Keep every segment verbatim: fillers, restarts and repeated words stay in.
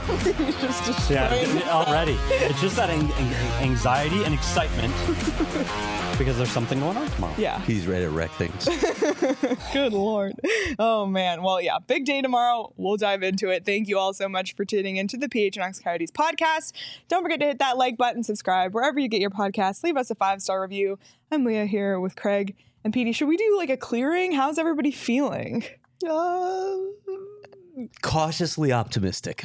just destroying Yeah, already. It's just that an- an- anxiety and excitement because there's something going on tomorrow. Yeah. He's ready to wreck things. Good Lord. Oh, man. Well, yeah, big day tomorrow. We'll dive into it. Thank you all so much for tuning into the P H N X Coyotes podcast. Don't forget to hit that like button, subscribe wherever you get your podcasts. Leave us a five-star review. I'm Leah here with Craig and Petey. Should we do like a clearing? How's everybody feeling? Uh, cautiously optimistic.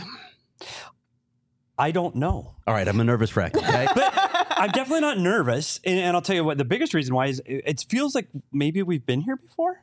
I don't know. All right, I'm a nervous wreck. Okay? But I'm definitely not nervous. And, and I'll tell you what, the biggest reason why is it, it feels like maybe we've been here before.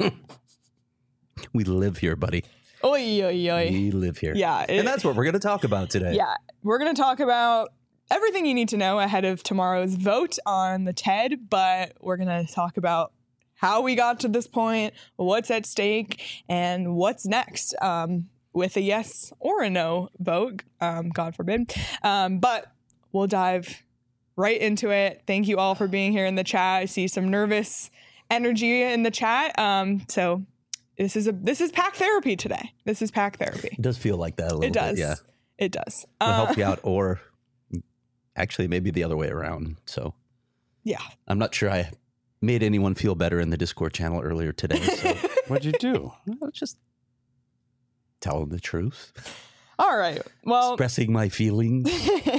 We live here, buddy. Oy, oy, oy. We live here. Yeah. It, and that's what we're going to talk about today. Yeah. We're going to talk about everything you need to know ahead of tomorrow's vote on the T E D, but we're going to talk about how we got to this point, what's at stake, and what's next. Um, with a yes or a no vote, um, God forbid. Um, but we'll dive right into it. Thank you all for being here in the chat. I see some nervous energy in the chat. Um, so this is a this is pack therapy today. This is pack therapy. It does feel like that a little It does. bit. Yeah. It does. We'll Uh, help you out, or actually maybe the other way around. So yeah. I'm not sure I made anyone feel better in the Discord channel earlier today. So What'd you do? I'll just tell them the truth. All right. Well, Expressing my feelings.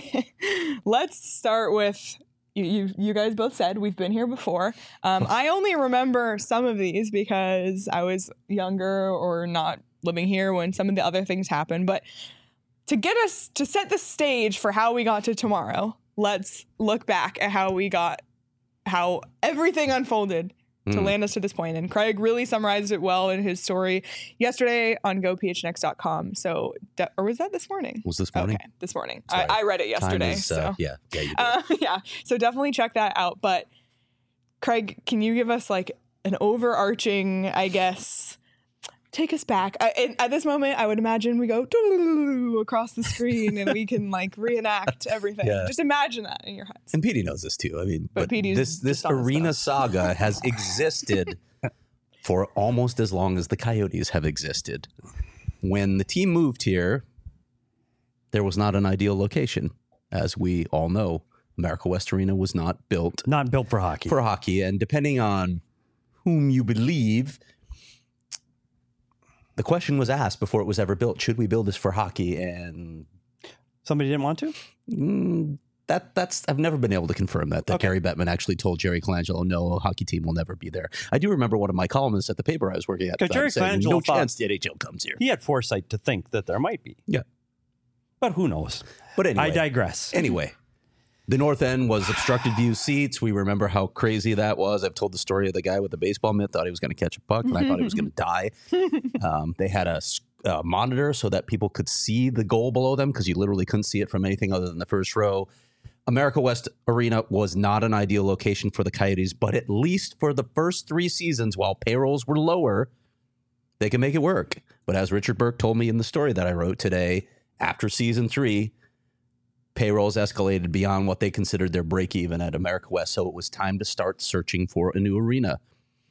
let's start with you, you. You guys both said we've been here before. Um, I only remember some of these because I was younger or not living here when some of the other things happened. But to get us to set the stage for how we got to tomorrow, let's look back at how we got, how everything unfolded to Mm. land us to this point. And Craig really summarized it well in his story yesterday on go p h n x dot com. So, de- or was that this morning? Was this morning? Okay, this morning. Sorry. I, I read it Time yesterday. is, uh, so yeah, yeah, you did. uh, yeah, so definitely check that out. But Craig, can you give us like an overarching, I guess, take us back? I, and at this moment, I would imagine we go doo-doo-doo-doo across the screen and we can like reenact everything. Yeah. Just imagine that in your heads. And Petey knows this too. I mean, But but, Petey's this this just on his arena stuff. saga has existed for almost as long as the Coyotes have existed. When the team moved here, there was not an ideal location, as we all know. America West Arena was not built Not built for hockey. for hockey, and depending on whom you believe, the question was asked before it was ever built: should we build this for hockey? And Somebody didn't want to? Mm, that that's I've never been able to confirm that. That Okay. Gary Bettman actually told Jerry Colangelo, no, a hockey team will never be there. I do remember one of my columnists at the paper I was working at. Because at the time Jerry saying, Colangelo no thought- chance the N H L comes here. He had foresight to think that there might be. Yeah. But who knows? But anyway, I digress. Anyway, the north end was obstructed view seats. We remember how crazy that was. I've told the story of the guy with the baseball mitt, thought he was going to catch a puck, and I thought he was going to die. Um, they had a s- uh, monitor so that people could see the goal below them because you literally couldn't see it from anything other than the first row. America West Arena was not an ideal location for the Coyotes, but at least for the first three seasons, while payrolls were lower, they can make it work. But as Richard Burke told me in the story that I wrote today, after season three, payrolls escalated beyond what they considered their break even at America West. So it was time to start searching for a new arena.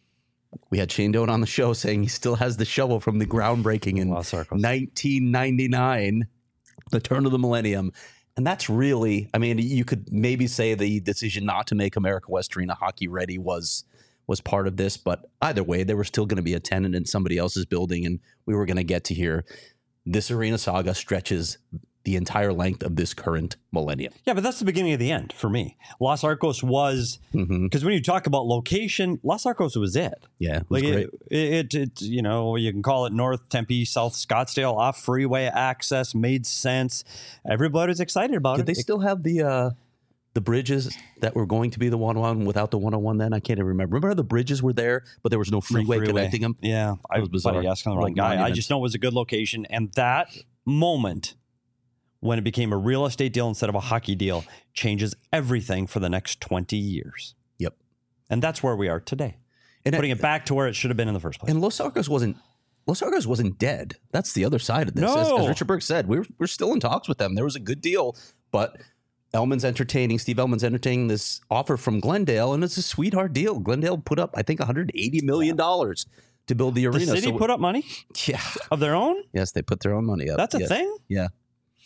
We had Shane Doan on the show saying he still has the shovel from the groundbreaking in Los Arcos. nineteen ninety-nine, the turn of the millennium. And that's really, I mean, you could maybe say the decision not to make America West Arena hockey ready was was part of this. But either way, there was still going to be a tenant in somebody else's building, and we were going to get to hear this arena saga stretches the entire length of this current millennium. Yeah, but that's the beginning of the end for me. Los Arcos was, Mm-hmm. because when you talk about location, Los Arcos was it. Yeah, it was Like great. it, it, it, you know, you can call it North Tempe, South Scottsdale, off freeway access, made sense. Everybody was excited about Did it. they It- still have the uh, the bridges that were going to be the one oh one without the one oh one then? I can't even remember. Remember how the bridges were there, but there was no No freeway, connecting them? Yeah, I was was bizarre. asking the wrong Like guy. I monuments. just know it was a good location, and that moment when it became a real estate deal instead of a hockey deal changes everything for the next twenty years. Yep. And that's where we are today, And putting it back to where it should have been in the first place. And Los Arcos wasn't Los Arcos wasn't dead. That's the other side of this. As, No. as Richard Burke said, we're we're still in talks with them. There was a good deal, but Elman's entertaining, Steve Elman's entertaining this offer from Glendale, and it's a sweetheart deal. Glendale put up, I think, one hundred eighty million dollars to build the the arena. city So- put up money yeah. of their own. Yes, they put their own money up. That's a Yes. thing. Yeah.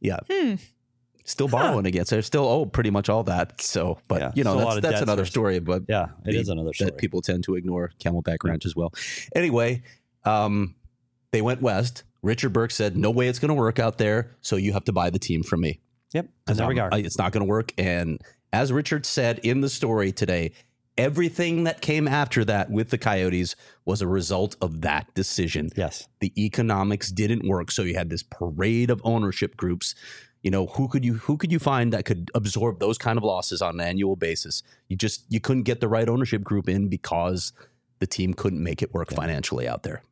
Yeah. Hmm. Still borrowing huh. against. They're still owe pretty much all that. So, but yeah, you know, that's, that's another story. But yeah, it the, is another story that people tend to ignore. Camelback Ranch yeah. as well. Anyway, um, they went west. Richard Burke said, "No way it's going to work out there. So you have to buy the team from me." Yep, and there we go. It's not going to work. And as Richard said in the story today, everything that came after that with the Coyotes was a result of that decision. Yes, the economics didn't work. So you had this parade of ownership groups. You know, who could you who could you find that could absorb those kind of losses on an annual basis? You just you couldn't get the right ownership group in because the team couldn't make it work yeah. financially out there.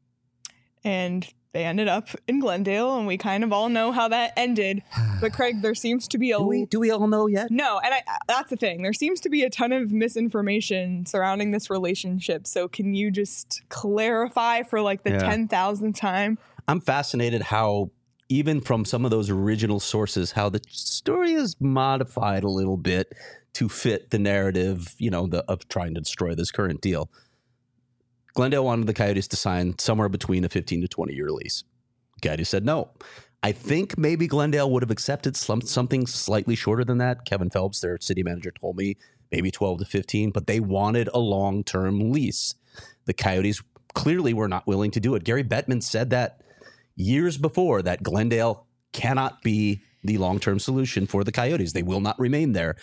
And they ended up in Glendale, and we kind of all know how that ended. But Craig, there seems to be a do we, do we all know yet? No, and I, that's the thing. There seems to be a ton of misinformation surrounding this relationship. So can you just clarify for like the yeah. ten thousandth time? I'm fascinated how, even from some of those original sources, how the story is modified a little bit to fit the narrative, you know, the, of trying to destroy this current deal. Glendale wanted the Coyotes to sign somewhere between a fifteen to twenty year lease. Coyotes said no. I think maybe Glendale would have accepted some, something slightly shorter than that. Kevin Phelps, their city manager, told me maybe twelve to fifteen, but they wanted a long-term lease. The Coyotes clearly were not willing to do it. Gary Bettman said that years before, that Glendale cannot be the long-term solution for the Coyotes. They will not remain there.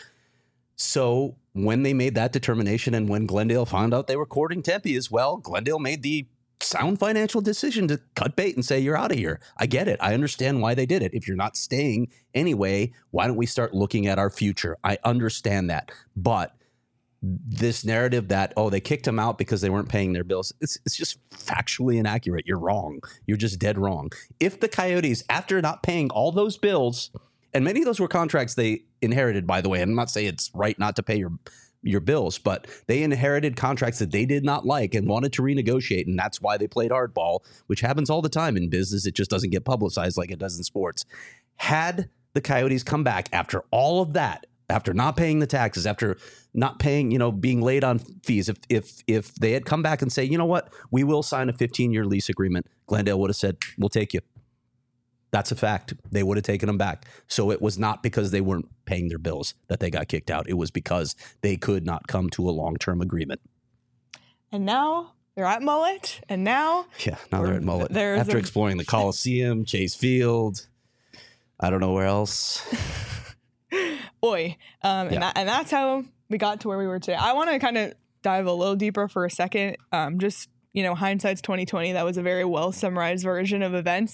So when they made that determination and when Glendale found out they were courting Tempe as well, Glendale made the sound financial decision to cut bait and say, you're out of here. I get it. I understand why they did it. If you're not staying anyway, why don't we start looking at our future? I understand that. But this narrative that, oh, they kicked them out because they weren't paying their bills, it's it's just factually inaccurate. You're wrong. You're just dead wrong. If the Coyotes, after not paying all those bills, and many of those were contracts they inherited, by the way, I'm not saying it's right not to pay your your bills, but they inherited contracts that they did not like and wanted to renegotiate, and that's why they played hardball, which happens all the time in business. It just doesn't get publicized like it does in sports. Had the Coyotes come back after all of that, after not paying the taxes, after not paying, you know, being late on fees, if if if they had come back and say, you know what, we will sign a fifteen year lease agreement, Glendale would have said, we'll take you. That's a fact. They would have taken them back. So it was not because they weren't paying their bills that they got kicked out. It was because they could not come to a long-term agreement. And now they're at Mullet. And now... Yeah, now they're at Mullet. After a, exploring the Coliseum, Chase Field, I don't know where else. Oi. Um, and, yeah. that, and that's how we got to where we were today. I want to kind of dive a little deeper for a second. Um, just, you know, hindsight's twenty twenty. That was a very well summarized version of events.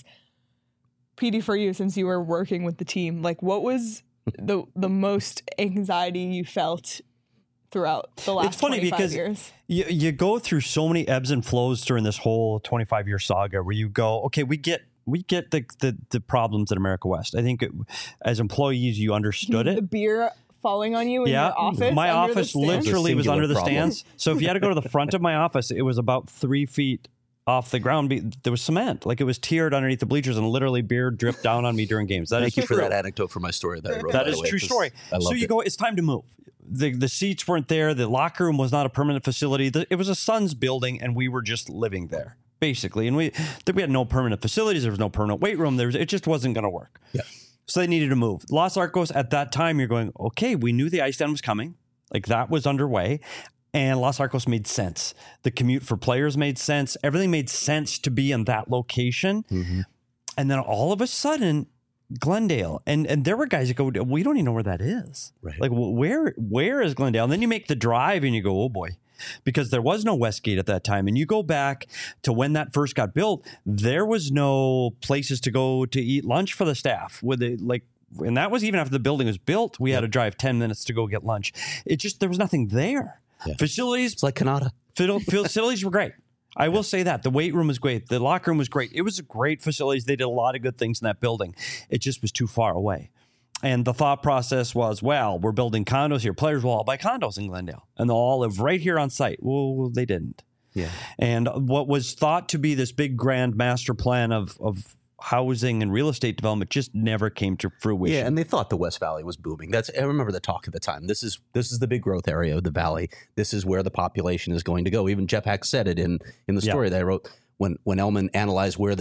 P D, for you, since you were working with the team, like what was the the most anxiety you felt throughout the last it's funny twenty-five because years? You, you go through so many ebbs and flows during this whole twenty-five year saga where you go, okay, we get we get the the, the problems at America West. I think it, as employees, you understood it. The beer falling on you in yeah, your office. My office literally was under the problem. stands. So if you had to go to the front of my office, it was about three feet off the ground. There was cement, like it was tiered underneath the bleachers, and literally beer dripped down on me during games. That Thank is you true. for that anecdote for my story that I wrote. That is a true story. So you it. go, it's time to move. The the seats weren't there. The locker room was not a permanent facility. The, it was a Suns building, and we were just living there, basically. And we we had no permanent facilities. There was no permanent weight room. There was, it just wasn't going to work. Yeah. So they needed to move. Los Arcos, at that time, you're going, okay, we knew the ice den was coming. Like that was underway. And Los Arcos made sense. The commute for players made sense. Everything made sense to be in that location. Mm-hmm. And then all of a sudden, Glendale. And and there were guys that go, we don't even know where that is. Right. Like, where where is Glendale? And then you make the drive and you go, oh boy. Because there was no Westgate at that time. And you go back to when that first got built, there was no places to go to eat lunch for the staff. With it, like, and that was even after the building was built. We yep. had to drive ten minutes to go get lunch. It just, there was nothing there. Yeah. Facilities, it's like Canada. Facilities were great. I will say that. The weight room was great. The locker room was great. It was great facilities. They did a lot of good things in that building. It just was too far away. And the thought process was, well, we're building condos here. Players will all buy condos in Glendale, and they'll all live right here on site. Well, they didn't. Yeah. And what was thought to be this big grand master plan of of housing and real estate development just never came to fruition. Yeah, and they thought the West Valley was booming. That's I remember the talk at the time. This is this is the big growth area of the valley. This is where the population is going to go. Even Jeff Hack said it in in the story yeah. that I wrote when when Elman analyzed where the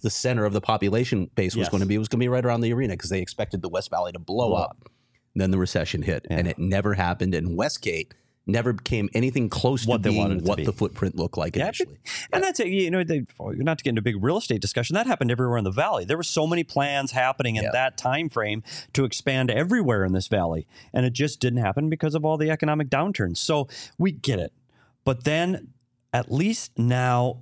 the center of the population base was Yes. going to be. It was going to be right around the arena because they expected the West Valley to blow Blow up. Then the recession hit, Yeah. and it never happened. And Westgate never became anything close What to they wanted being it to what be. the footprint looked like Yeah, initially. And that's it. You know, they, not to get into a big real estate discussion, that happened everywhere in the valley. There were so many plans happening in Yeah. that time frame to expand everywhere in this valley, and it just didn't happen because of all the economic downturns. So we get it, but then at least now,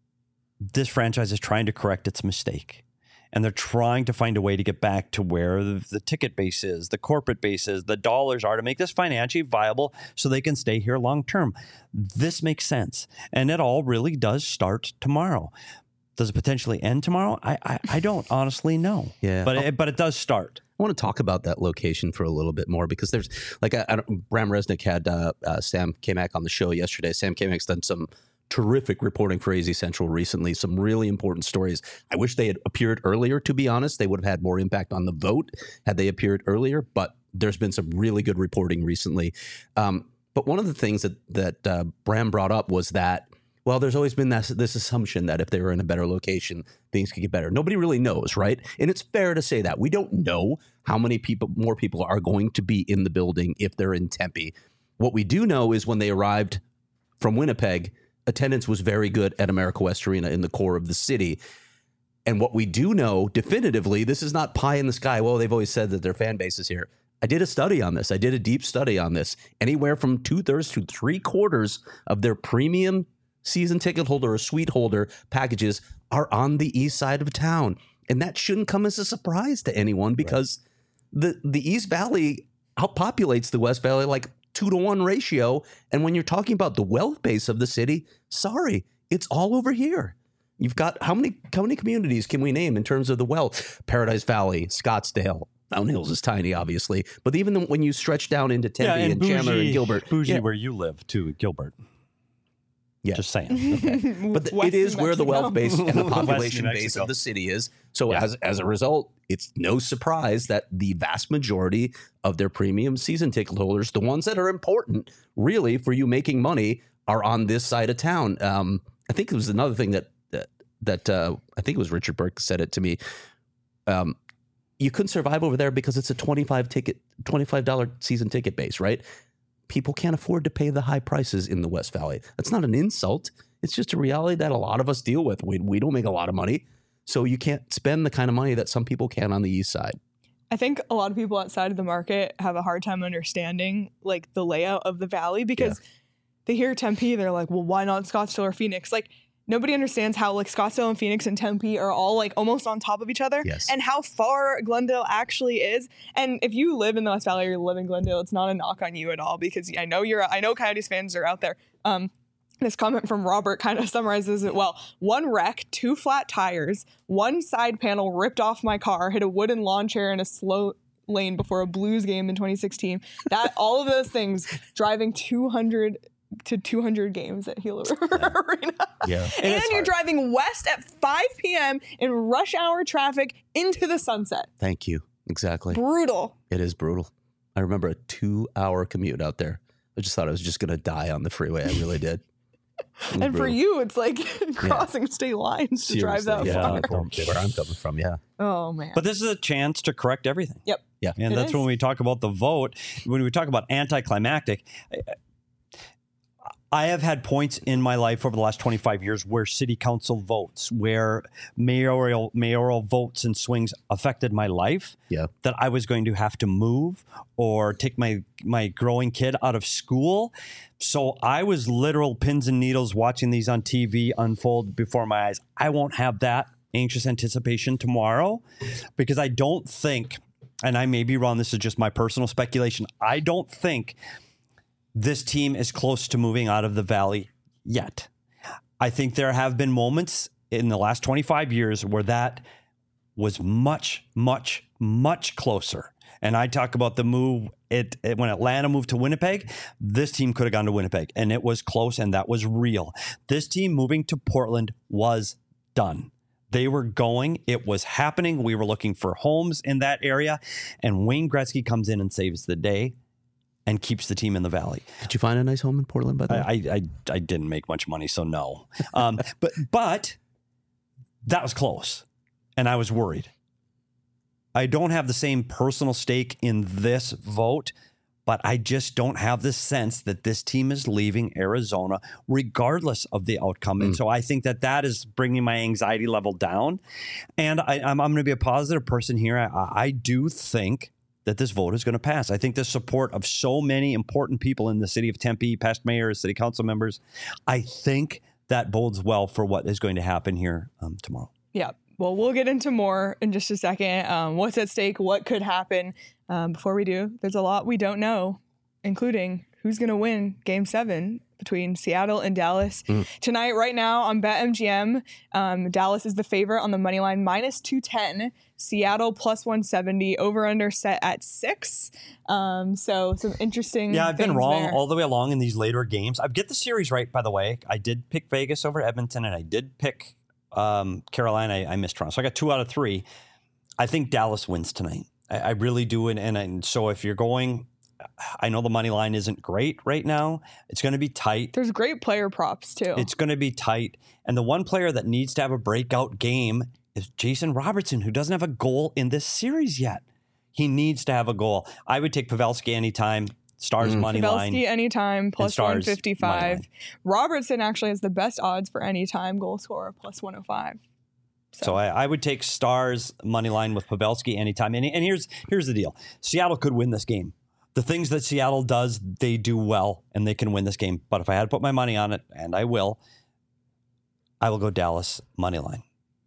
this franchise is trying to correct its mistake. And they're trying to find a way to get back to where the, the ticket base is, the corporate base is, the dollars are to make this financially viable so they can stay here long term. This makes sense. And it all really does start tomorrow. Does it potentially end tomorrow? I I, I don't honestly know. Yeah. But it, but it does start. I want to talk about that location for a little bit more because there's like I, I don't, Bram Resnick had uh, uh, Sam Kamak on the show yesterday. Sam Kamak's done some terrific reporting for A Z Central recently, some really important stories. I wish they had appeared earlier, to be honest. They would have had more impact on the vote had they appeared earlier, but there's been some really good reporting recently. Um, but one of the things that, that uh, Bram brought up was that, well, there's always been this, this assumption that if they were in a better location, things could get better. Nobody really knows, right? And it's fair to say that. We don't know how many people, more people are going to be in the building if they're in Tempe. What we do know is when they arrived from Winnipeg, attendance was very good at America West Arena in the core of the city. And what we do know definitively, this is not pie in the sky. Well, they've always said that their fan base is here. I did a study on this. I did a deep study on this. Anywhere from two thirds to three quarters of their premium season ticket holder or suite holder packages are on the east side of town. And that shouldn't come as a surprise to anyone because right. the, the East Valley outpopulates the West Valley like two to one ratio. And when you're talking about the wealth base of the city, sorry, it's all over here. You've got how many how many communities can we name in terms of the wealth? Paradise Valley, Scottsdale, Mountain Hills is tiny, obviously. But even the, when you stretch down into Tempe Yeah, and, and bougie, Chandler and Gilbert. Bougie yeah. where you live too, Gilbert. Yeah. Just saying. Okay. But the, West it is New where the Mexico. wealth base and the population West New base Mexico. of the city is. So Yeah. as as a result, it's no surprise that the vast majority of their premium season ticket holders, the ones that are important really for you making money, are on this side of town. Um, I think it was another thing that that, that uh, I think it was Richard Burke said it to me. Um, you couldn't survive over there because it's a twenty-five ticket, twenty-five dollars season ticket base, right? People can't afford to pay the high prices in the West Valley. That's not an insult. It's just a reality that a lot of us deal with. We, we don't make a lot of money. So you can't spend the kind of money that some people can on the east side. I think a lot of people outside of the market have a hard time understanding like the layout of the valley because yeah. they hear Tempe, they're like, well, why not Scottsdale or Phoenix? Like nobody understands how like Scottsdale and Phoenix and Tempe are all like almost on top of each other Yes. and how far Glendale actually is. And if you live in the West Valley or you live in Glendale, it's not a knock on you at all because I know you're, I know Coyotes fans are out there. Um, This comment from Robert kind of summarizes it well. One wreck, two flat tires, one side panel ripped off my car, hit a wooden lawn chair in a slow lane before a Blues game in twenty sixteen. That all of those things driving two hundred to two hundred games at Gila River Yeah. Arena. Yeah. And, and you're hard. driving west at five p.m. in rush hour traffic into the sunset. Thank you. Exactly. Brutal. It is brutal. I remember a two hour commute out there. I just thought I was just going to die on the freeway. I really did. And brutal. For you, it's like crossing yeah. state lines to Seriously, drive that yeah, far. Where I'm coming from, yeah. Oh, man. But this is a chance to correct everything. Yep. Yeah. And it that's is. when we talk about the vote, when we talk about anticlimactic. I have had points in my life over the last twenty-five years where city council votes, where mayoral mayoral votes and swings affected my life. Yeah. That I was going to have to move or take my my growing kid out of school. So I was literal pins and needles watching these on T V unfold before my eyes. I won't have that anxious anticipation tomorrow because I don't think, and I may be wrong, this is just my personal speculation, I don't think this team is close to moving out of the valley yet. I think there have been moments in the last twenty-five years where that was much, much, much closer. And I talk about the move, it, it when Atlanta moved to Winnipeg, this team could have gone to Winnipeg and it was close and that was real. This team moving to Portland was done. They were going, it was happening. We were looking for homes in that area and Wayne Gretzky comes in and saves the day and keeps the team in the valley. Did you find a nice home in Portland, by the way? I I, I didn't make much money, so no. Um, but but that was close. and I was worried. I don't have the same personal stake in this vote, but I just don't have the sense that this team is leaving Arizona regardless of the outcome. Mm. And so I think that that is bringing my anxiety level down. And I, I'm, I'm going to be a positive person here. I, I do think that this vote is going to pass. I think the support of so many important people in the city of Tempe, past mayors, city council members, I think that bodes well for what is going to happen here um, tomorrow. Yeah. Well, we'll get into more in just a second. Um, what's at stake? What could happen? Um, before we do, there's a lot we don't know, including who's going to win Game seven between Seattle and Dallas. Mm. Tonight, right now on BetMGM, um, Dallas is the favorite on the money line, minus two ten. Seattle plus one seventy, over under set at six. Um, so some interesting Yeah, I've been wrong there. all the way along in these later games. I get the series right, by the way. I did pick Vegas over Edmonton, and I did pick Um, Carolina. I, I missed Toronto. So I got two out of three. I think Dallas wins tonight. I, I really do. And, and, and so if you're going, I know the money line isn't great right now. It's going to be tight. There's great player props too. It's going to be tight. And the one player that needs to have a breakout game is Jason Robertson, who doesn't have a goal in this series yet. He needs to have a goal. I would take Pavelski anytime. Stars mm. money Pavelski line. anytime, plus one fifty-five. Robertson actually has the best odds for anytime goal scorer, plus one oh five. So, so I, I would take Stars money line with Pavelski anytime. And, and here's here's the deal. Seattle could win this game. The things that Seattle does, they do well, and they can win this game. But if I had to put my money on it, and I will, I will go Dallas money line.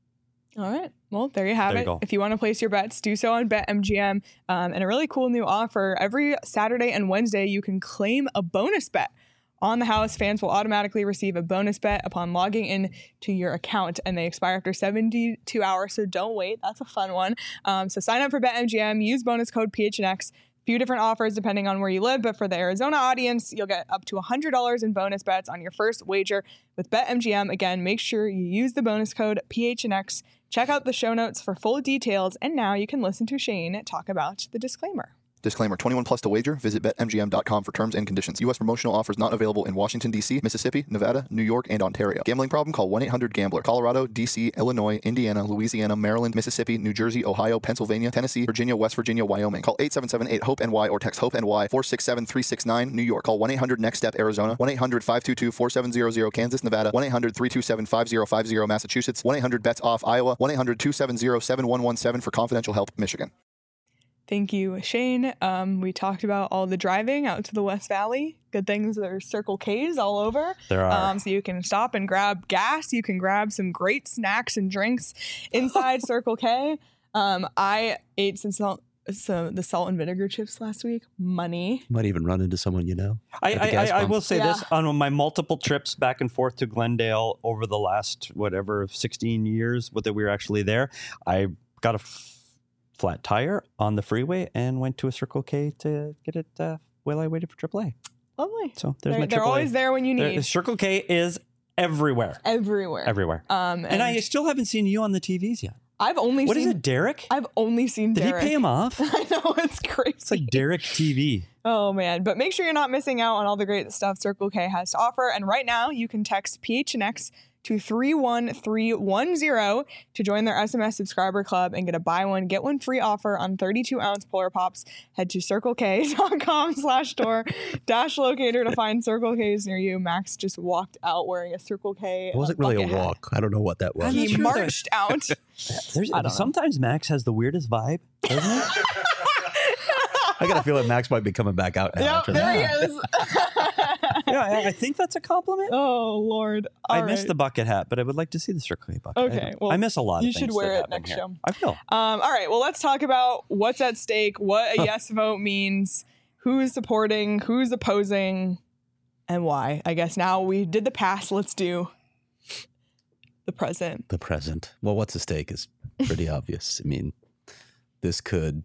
All right. Well, there you have there it. You go. If you want to place your bets, do so on BetMGM. Um, and a really cool new offer. Every Saturday and Wednesday, you can claim a bonus bet on the house. Fans will automatically receive a bonus bet upon logging in to your account, and they expire after seventy-two hours. So don't wait. That's a fun one. Um, so sign up for BetMGM. Use bonus code P H N X. Few different offers depending on where you live, but for the Arizona audience, you'll get up to one hundred dollars in bonus bets on your first wager with BetMGM. Again, make sure you use the bonus code P H N X. Check out the show notes for full details, and now you can listen to Shane talk about the disclaimer. Disclaimer, twenty-one plus to wager. Visit Bet M G M dot com for terms and conditions. U S promotional offers not available in Washington, D C, Mississippi, Nevada, New York, and Ontario. Gambling problem? Call one eight hundred gambler. Colorado, D C, Illinois, Indiana, Louisiana, Maryland, Mississippi, New Jersey, Ohio, Pennsylvania, Tennessee, Virginia, West Virginia, Wyoming. Call eight seven seven eight hope N Y or text HOPE-N Y four six seven three six nine. New York. Call one eight hundred next step Arizona. one eight hundred five two two four seven zero zero. Kansas, Nevada. one eight hundred three two seven five zero five zero. Massachusetts. one eight hundred bets off Iowa. one eight hundred two seven zero seven one one seven for confidential help, Michigan. Thank you, Shane. Um, we talked about all the driving out to the West Valley. Good things, there's Circle K's all over. There are. Um, so you can stop and grab gas. You can grab some great snacks and drinks inside Circle K. Um, I ate some salt, so the salt and vinegar chips last week. Money. Might even run into someone you know. I, I, I, I will say yeah. this. On my multiple trips back and forth to Glendale over the last, whatever, sixteen years that we were actually there, I got a f- flat tire on the freeway and went to a Circle K to get it uh, while I waited for triple A. Lovely. So there's they're, my they're triple A. always there when you need. There, Circle K is everywhere. Everywhere. Everywhere. Um, and, and I still haven't seen you on the T Vs yet. I've only What seen. is it, Derek? I've only seen Did Derek. he pay him off? I know, it's crazy. It's like Derek T V. Oh, man. But make sure you're not missing out on all the great stuff Circle K has to offer. And right now, you can text P H N X to three one three one zero to join their S M S subscriber club and get a buy one, get one free offer on thirty-two ounce Polar Pops. Head to circlek.com slash store dash locator to find Circle K's near you. Max just walked out wearing a Circle K. It wasn't really a walk. I don't know what that was. He sure marched out. There's, I don't know. sometimes Max has the weirdest vibe, doesn't he? I got a feeling Max might be coming back out now. Yep, after there that. he is. Yeah, I, I think that's a compliment. Oh, Lord. All I right. missed the bucket hat, but I would like to see the Circle K bucket. Okay, I, well, I miss a lot you of things. should wear that it happen next here. show. I will. Um, all right. Well, let's talk about what's at stake, what a yes vote means, who's supporting, who's opposing, and why. I guess now we did the past. Let's do the present. The present. Well, what's at stake is pretty obvious. I mean, this could,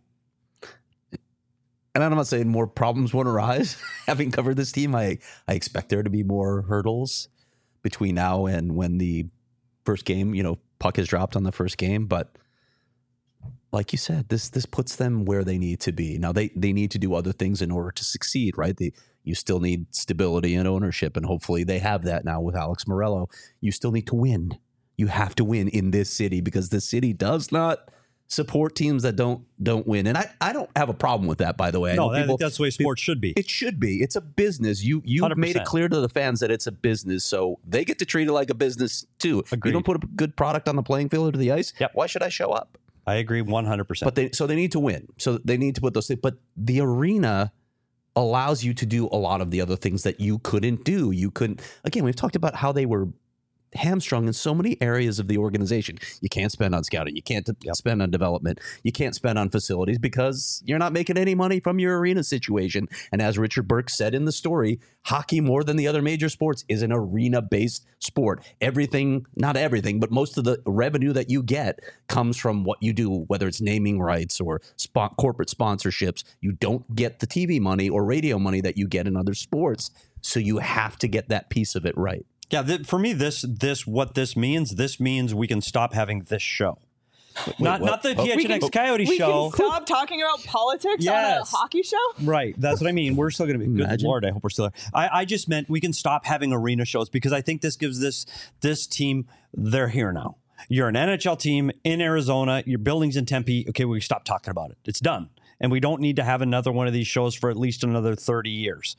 and I'm not saying more problems won't arise. Having covered this team, I, I expect there to be more hurdles between now and when the first game, you know, puck is dropped on the first game. But like you said, this this puts them where they need to be. Now, they, they need to do other things in order to succeed, right? They You still need stability and ownership, and hopefully they have that now with Alex Morello. You still need to win. You have to win in this city because the city does not support teams that don't don't win. And I, I don't have a problem with that, by the way. I No, know I people- think that's the way sports should be. It should be. It's a business. You you one hundred made it percent. clear to the fans that it's a business, so they get to treat it like a business too. Agreed. You don't put a good product on the playing field or to the ice. Yep. Why should I show up? I agree one hundred percent. But they so they need to win. So they need to put those things. But the arena allows you to do a lot of the other things that you couldn't do. You couldn't. Again, we've talked about how they were hamstrung in so many areas of the organization. You can't spend on scouting. You can't Yep. spend on development. You can't spend on facilities because you're not making any money from your arena situation. And as Richard Burke said in the story, hockey, more than the other major sports, is an arena-based sport. Everything, not everything, but most of the revenue that you get comes from what you do, whether it's naming rights or spot, corporate sponsorships. You don't get the T V money or radio money that you get in other sports. So you have to get that piece of it right. Yeah, th- for me, this this what this means. This means we can stop having this show. not what? not the Oh. P H N X We can- Coyote we show. can stop talking about politics on a Yes. hockey show. Right, that's what I mean. We're still going to be. Good Imagine. Lord, I hope we're still there. I, I just meant we can stop having arena shows because I think this gives this this team. They're here now. You're an N H L team in Arizona. Your building's in Tempe. Okay, we stop talking about it. It's done, and we don't need to have another one of these shows for at least another thirty years.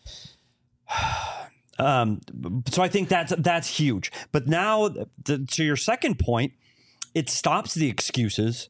Um, so I think that's that's huge. But now, the, to your second point, it stops the excuses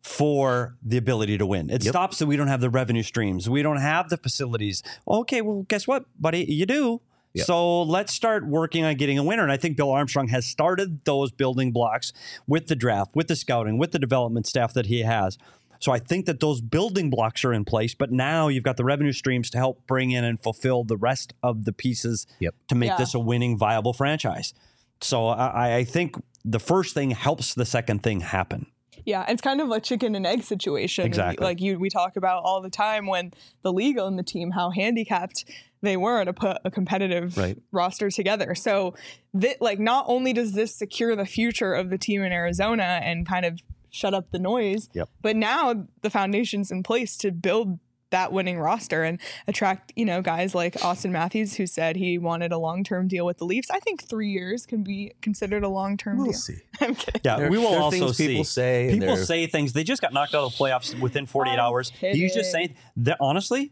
for the ability to win. It Yep. stops that we don't have the revenue streams. We don't have the facilities. Okay, well, guess what, buddy? You do. Yep. So let's start working on getting a winner. And I think Bill Armstrong has started those building blocks with the draft, with the scouting, with the development staff that he has. So I think that those building blocks are in place, but now you've got the revenue streams to help bring in and fulfill the rest of the pieces Yep. to make Yeah. this a winning, viable franchise. So I, I think the first thing helps the second thing happen. Yeah, it's kind of a chicken and egg situation. Exactly. Like you, we talk about all the time when the league and the team, how handicapped they were to put a competitive Right. roster together. So, th- like, not only does this secure the future of the team in Arizona and kind of shut up the noise, Yep. but now the foundation's in place to build that winning roster and attract, you know, guys like Austin Matthews, who said he wanted a long-term deal with the Leafs. I think three years can be considered a long-term We'll deal. see. I'm kidding. Yeah, There- we will there are also things see. people say, and People they're- say things. They just got knocked out of the playoffs within forty-eight I'm hours. He's just kidding. saying that honestly,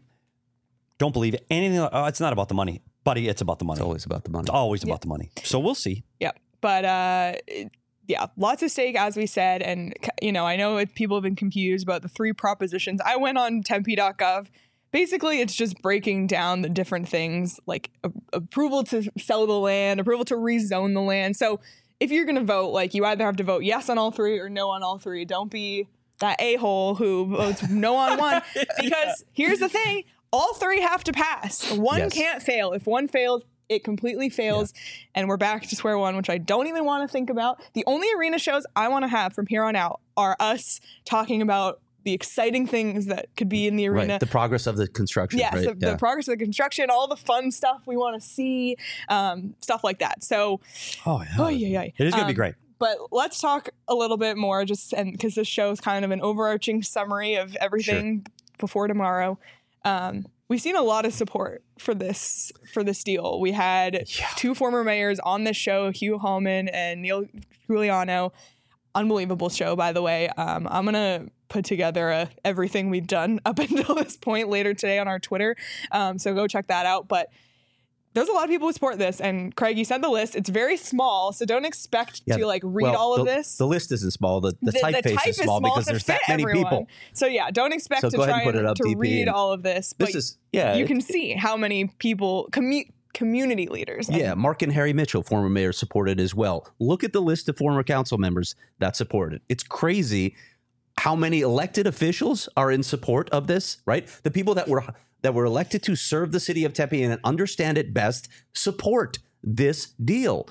don't believe anything. Oh, it's not about the money, buddy. It's about the money. It's always about the money. It's always about the money. So we'll see. Yeah. But uh it- yeah, lots of stake, as we said. And, you know, I know it, people have been confused about the three propositions. I went on tempe dot gov. Basically, it's just breaking down the different things like a- approval to sell the land, approval to rezone the land. So if you're going to vote, like you either have to vote yes on all three or no on all three. Don't be that a-hole who votes no on one. Because here's the thing, all three have to pass. One Yes. can't fail. If one fails, it completely fails, and we're back to square one, which I don't even want to think about. The only arena shows I want to have from here on out are us talking about the exciting things that could be in the arena. Right. The progress of the construction. Yes, right? the, Yeah. the progress of the construction, all the fun stuff we want to see, um, stuff like that. So, Oh yeah, oh yeah, yeah. it is going to be great. But let's talk a little bit more, just and because this show is kind of an overarching summary of everything before tomorrow. Um, we've seen a lot of support for this for this deal. We had two former mayors on this show, Hugh Hallman and Neil Giuliano. Unbelievable show, by the way. Um, I'm gonna put together a, everything we've done up until this point later today on our Twitter. Um, so go check that out. But there's a lot of people who support this, and Craig, you sent the list. It's very small, so don't expect Yeah, to like read well, all of the, this. The list isn't small. The, the, typeface type is small because to there's that fit many everyone. people. So yeah, don't expect So to go ahead try and put and, it up, to D P, read and all of this. This but is yeah. you it- can see how many people commu- community leaders. and- Yeah, Mark and Harry Mitchell, former mayor, supported as well. Look at the list of former council members that supported. It's crazy how many elected officials are in support of this, right? The people that were that were elected to serve the city of Tempe and understand it best support this deal.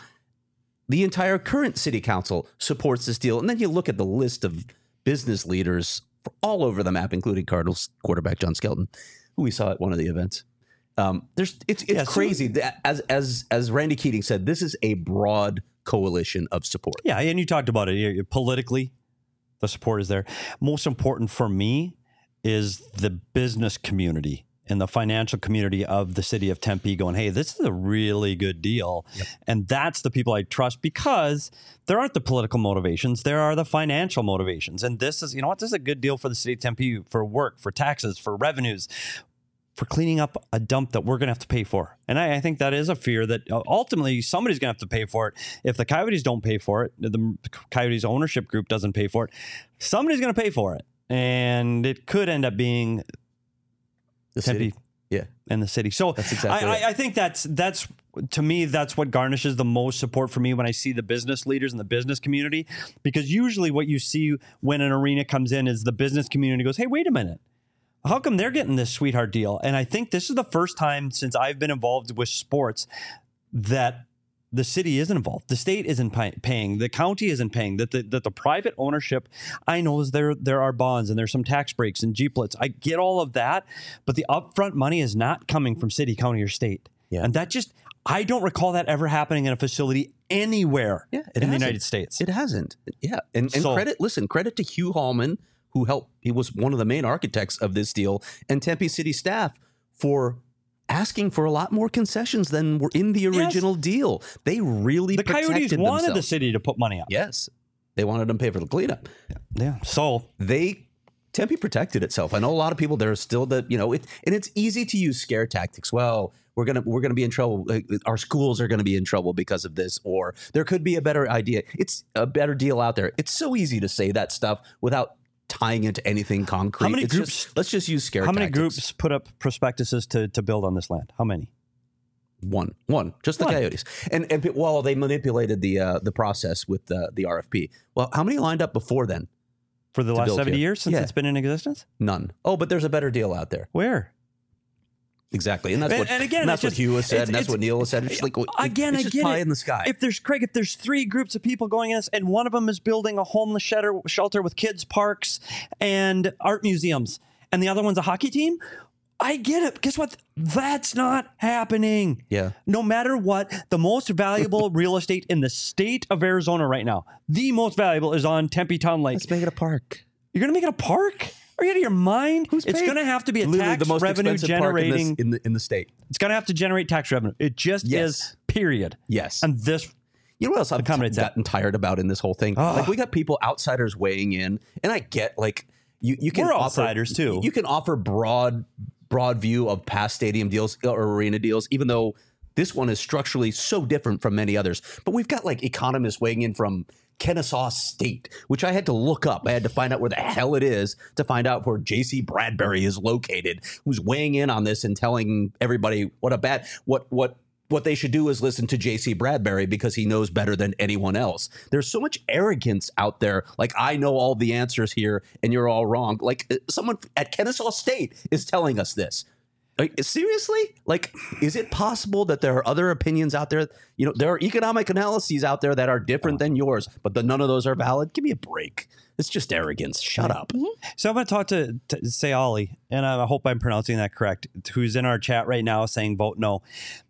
The entire current city council supports this deal. And then you look at the list of business leaders all over the map, including Cardinals quarterback John Skelton, who we saw at one of the events. Um, there's it's it's Yeah, so- crazy. that as as as Randy Keating said, this is a broad coalition of support. Yeah, and you talked about it you- politically. The support is there. Most important for me is the business community in the financial community of the city of Tempe going, hey, this is a really good deal. Yep. And that's the people I trust because there aren't the political motivations. There are the financial motivations. And this is, you know what, this is a good deal for the city of Tempe for work, for taxes, for revenues, for cleaning up a dump that we're going to have to pay for. And I, I think that is a fear that ultimately somebody's going to have to pay for it. If the Coyotes don't pay for it, the Coyotes ownership group doesn't pay for it, somebody's going to pay for it. And it could end up being the Tempe, city. Yeah. And the city. So that's exactly I, I, I think that's, that's to me, that's what garnishes the most support for me when I see the business leaders in the business community, because usually what you see when an arena comes in is the business community goes, hey, wait a minute. How come they're getting this sweetheart deal? And I think this is the first time since I've been involved with sports that the city isn't involved. The state isn't pay- paying. The county isn't paying. That the, that the private ownership, I know is there there are bonds and there's some tax breaks and G-plits. I get all of that, but the upfront money is not coming from city, county, or state. Yeah. And that just, I don't recall that ever happening in a facility anywhere yeah, in hasn't. the United States. It hasn't. Yeah. And, and so, credit, listen, credit to Hugh Hallman, who helped, he was one of the main architects of this deal, and Tempe City staff for asking for a lot more concessions than were in the original yes. deal. They really the protected Coyotes wanted themselves. the city to put money up. Yes. They wanted them to pay for the cleanup. Yeah. yeah. So they, Tempe protected itself. I know a lot of people, there are still the, you know, it, and it's easy to use scare tactics. Well, we're going to, we're going to be in trouble. Our schools are going to be in trouble because of this, or there could be a better idea. It's a better deal out there. It's so easy to say that stuff without tying into anything concrete. How many it's groups? Just, let's just use scare How tactics. many groups put up prospectuses to, to build on this land? How many? One, one, just the One. Coyotes. And and well, they manipulated the uh, the process with the, the R F P. Well, how many lined up before then? For the last seventy here? years since yeah. it's been in existence? None. Oh, but there's a better deal out there. Where? Exactly, and that's and, what and again, and that's just, what Hugh has said, and that's what Neil has said. It's like again, it's I just get pie it. in the sky. If there's Craig, if there's three groups of people going in this, and one of them is building a homeless shelter, shelter with kids parks and art museums, and the other one's a hockey team, I get it. Guess what? That's not happening. Yeah. No matter what, the most valuable real estate in the state of Arizona right now, the most valuable is on Tempe Town Lake. Let's make it a park. You're gonna make it a park? Are you out of your mind? Who's it's going to have to be a Literally tax the most revenue generating in, this, in the in the state. It's going to have to generate tax revenue. It just yes. is. Period. Yes. And this. You know what else I've t- gotten that. tired about in this whole thing? Oh. Like we got people, outsiders weighing in, and I get like you you can We're offer, outsiders too. You can offer broad broad view of past stadium deals or arena deals, even though this one is structurally so different from many others. But we've got like economists weighing in from Kennesaw State, which I had to look up. I had to find out where the hell it is to find out where J C Bradbury is located, who's weighing in on this and telling everybody what a bad what what what they should do is listen to J C Bradbury because he knows better than anyone else. There's so much arrogance out there. Like, I know all the answers here and you're all wrong. Like someone at Kennesaw State is telling us this. Like, seriously? Like, is it possible that there are other opinions out there? You know, there are economic analyses out there that are different than yours, but the, none of those are valid. Give me a break. It's just arrogance. Shut up. Mm-hmm. So I'm going to talk to, to Sayali, and I hope I'm pronouncing that correct, who's in our chat right now saying vote no.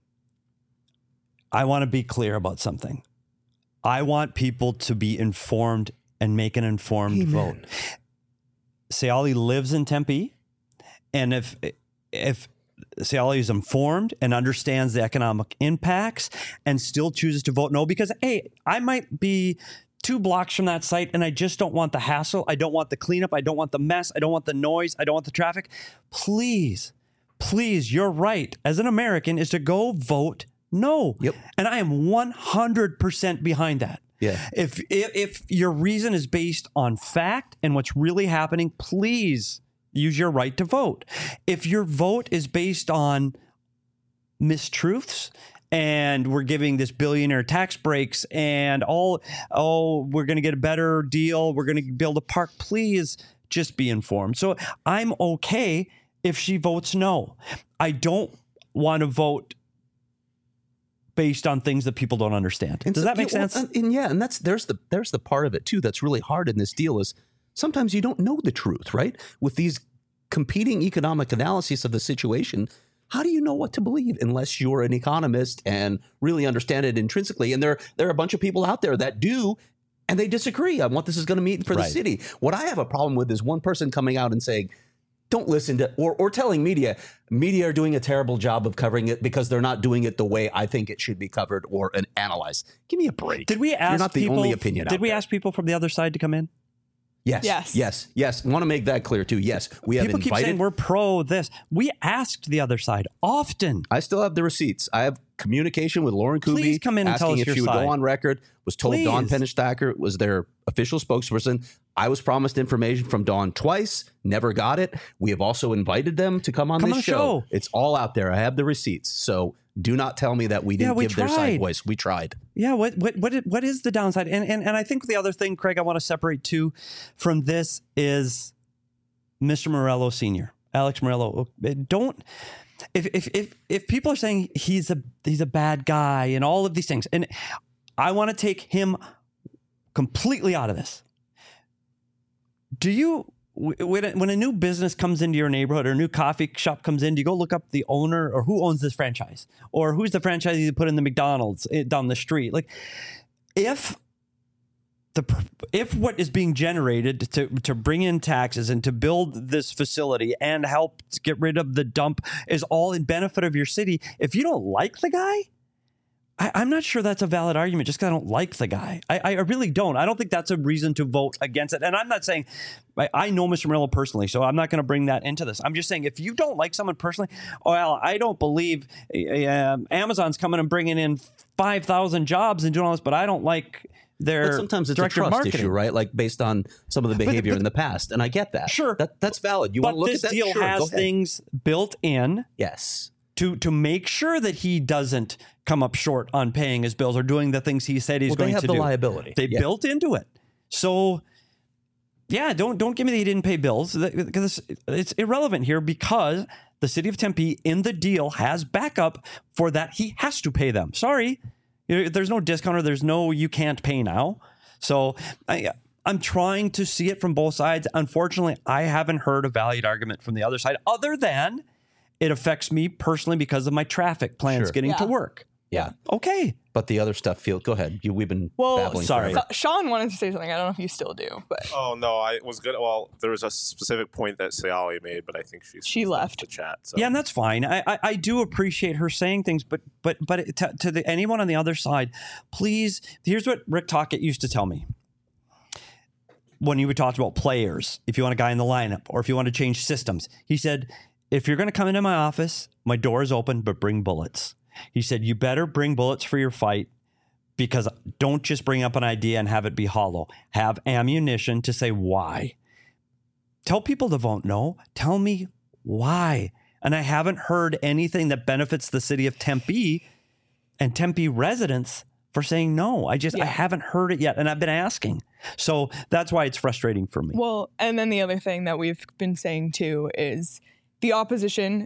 I want to be clear about something. I want people to be informed and make an informed Amen. vote. Sayali lives in Tempe, and if if Sayali is informed and understands the economic impacts and still chooses to vote no, because, hey, I might be two blocks from that site and I just don't want the hassle. I don't want the cleanup. I don't want the mess. I don't want the noise. I don't want the traffic. Please, please, you're right. As an American, is to go vote no. Yep. And I am one hundred percent behind that. Yeah. If, if if your reason is based on fact and what's really happening, please use your right to vote. If your vote is based on mistruths and we're giving this billionaire tax breaks and all, oh, we're going to get a better deal, we're going to build a park, please just be informed. So I'm okay if she votes no. I don't want to vote based on things that people don't understand. And Does so, that make yeah, well, sense? and, and yeah, and that's there's the there's the part of it too that's really hard in this deal is sometimes you don't know the truth, right? With these competing economic analyses of the situation, how do you know what to believe unless you're an economist and really understand it intrinsically? And there there are a bunch of people out there that do, and they disagree on what this is going to mean for the Right. city. What I have a problem with is one person coming out and saying, don't listen to or or telling media media are doing a terrible job of covering it because they're not doing it the way I think it should be covered or an analyzed. Give me a break. Did we ask You're not the people, only opinion Did out we there. ask people from the other side to come in? Yes. Yes. Yes. Yes. Want to make that clear too. Yes. We have People keep invited. saying we're pro this. We asked the other side often. I still have the receipts. I have communication with Lauren Kuby. Please come in and asking tell us if your she would side. go on record. Was told Please. Dawn Pennistacker was their official spokesperson. I was promised information from Dawn twice. Never got it. We have also invited them to come on Come this on the show. show. It's all out there. I have the receipts. So do not tell me that we didn't Yeah, we give their side tried. voice. We tried. Yeah, what what what is, what is the downside? And, and and I think the other thing, Craig, I want to separate too from this is Mister Morello Senior, Alex Morello. Don't if if if if people are saying he's a he's a bad guy and all of these things, and I want to take him completely out of this. Do you? When a, when a new business comes into your neighborhood or a new coffee shop comes in, do you go look up the owner or who owns this franchise or who's the franchisee you put in the McDonald's down the street? Like, if the if what is being generated to to bring in taxes and to build this facility and help to get rid of the dump is all in benefit of your city, if you don't like the guy, I, I'm not sure that's a valid argument just because I don't like the guy. I, I really don't. I don't think that's a reason to vote against it. And I'm not saying I, I know Mister Morello personally, so I'm not going to bring that into this. I'm just saying if you don't like someone personally, well, I don't believe uh, Amazon's coming and bringing in five thousand jobs and doing all this, but I don't like their But sometimes it's a director of trust marketing. issue, right? Like based on some of the behavior but- in the past. And I get that. Sure. That, that's valid. You But want to look this at that? deal Sure, go has ahead. things built in Yes. to to make sure that he doesn't come up short on paying his bills or doing the things he said he's Well, going they have to the do. liability. They Yeah. built into it. So yeah, don't don't give me that he didn't pay bills because it's irrelevant here because the city of Tempe in the deal has backup for that. He has to pay them. Sorry, You know, there's no discount or there's no you can't pay now. So I, I'm trying to see it from both sides. Unfortunately, I haven't heard a valid argument from the other side other than it affects me personally because of my traffic plans Sure. getting Yeah. to work. Yeah. Okay. But the other stuff, feel go ahead. You, we've been Well, babbling. sorry. forever. So- Sean wanted to say something. I don't know if you still do, but Oh no, I was good. Well, there was a specific point that Sayali made, but I think she's She left. the chat. So. Yeah, and that's fine. I, I I do appreciate her saying things, but but but it- to, to the anyone on the other side, please. Here's what Rick Tocchet used to tell me when he would talk about players. If you want a guy in the lineup, or if you want to change systems, he said, if you're going to come into my office, my door is open, but bring bullets. He said, you better bring bullets for your fight. Because don't just bring up an idea and have it be hollow. Have ammunition to say why. Tell people to vote no. Tell me why. And I haven't heard anything that benefits the city of Tempe and Tempe residents for saying no. I just, I Yeah. haven't heard it yet. And I've been asking. So that's why it's frustrating for me. well, and then the other thing that we've been saying too is the opposition,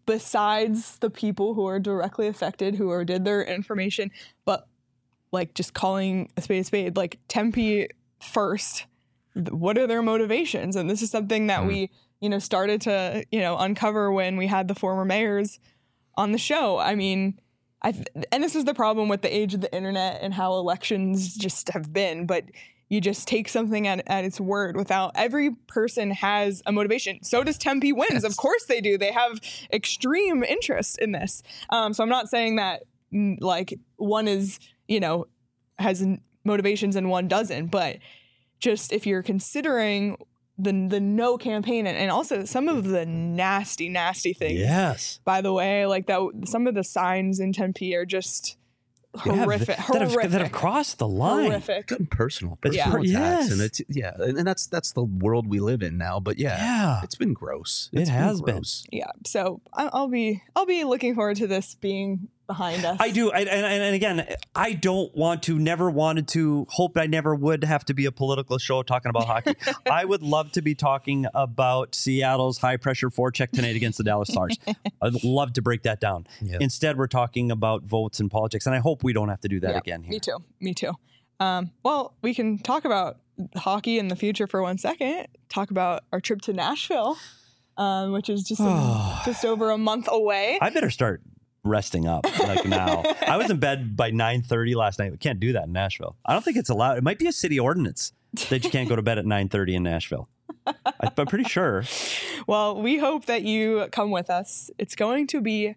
besides the people who are directly affected, who are did their information, but like just calling a spade a spade, like Tempe first. th- What are their motivations? And this is something that we, you know, started to, you know, uncover when we had the former mayors on the show. I mean, I th- and this is the problem with the age of the internet and how elections just have been, but you just take something at, at its word without every person has a motivation. So does Tempe Wins. Of course they do. They have extreme interest in this. Um, so I'm not saying that mm, like one is, you know, has n- motivations and one doesn't, but just if you're considering the the no campaign and, and also some of the nasty, nasty things, Yes. by the way, like that, some of the signs in Tempe are just Yeah, horrific, that, have, horrific, that have crossed the line. horrific. Good personal, It's personal per- attacks, yes. and it's yeah, and, and that's that's the world we live in now. But yeah, Yeah. it's been gross. It It's has been. gross. Yeah, so I- I'll be I'll be looking forward to this being behind us. I do. I, and, and and again, I don't want to, never wanted to, hoped I never would have to be a political show talking about hockey. I would love to be talking about Seattle's high pressure forecheck tonight against the Dallas Stars. I'd love to break that down. Yeah. Instead, we're talking about votes and politics. And I hope we don't have to do that Yeah, again here. Me too. Me too. Um, well, we can talk about hockey in the future for one second. Talk about our trip to Nashville, um, which is just a, just over a month away. I better start resting up like now. I was in bed by nine thirty last night. We can't do that in Nashville. I don't think it's allowed. It might be a city ordinance that you can't go to bed at nine thirty in Nashville. I, I'm pretty sure. Well, we hope that you come with us. It's going to be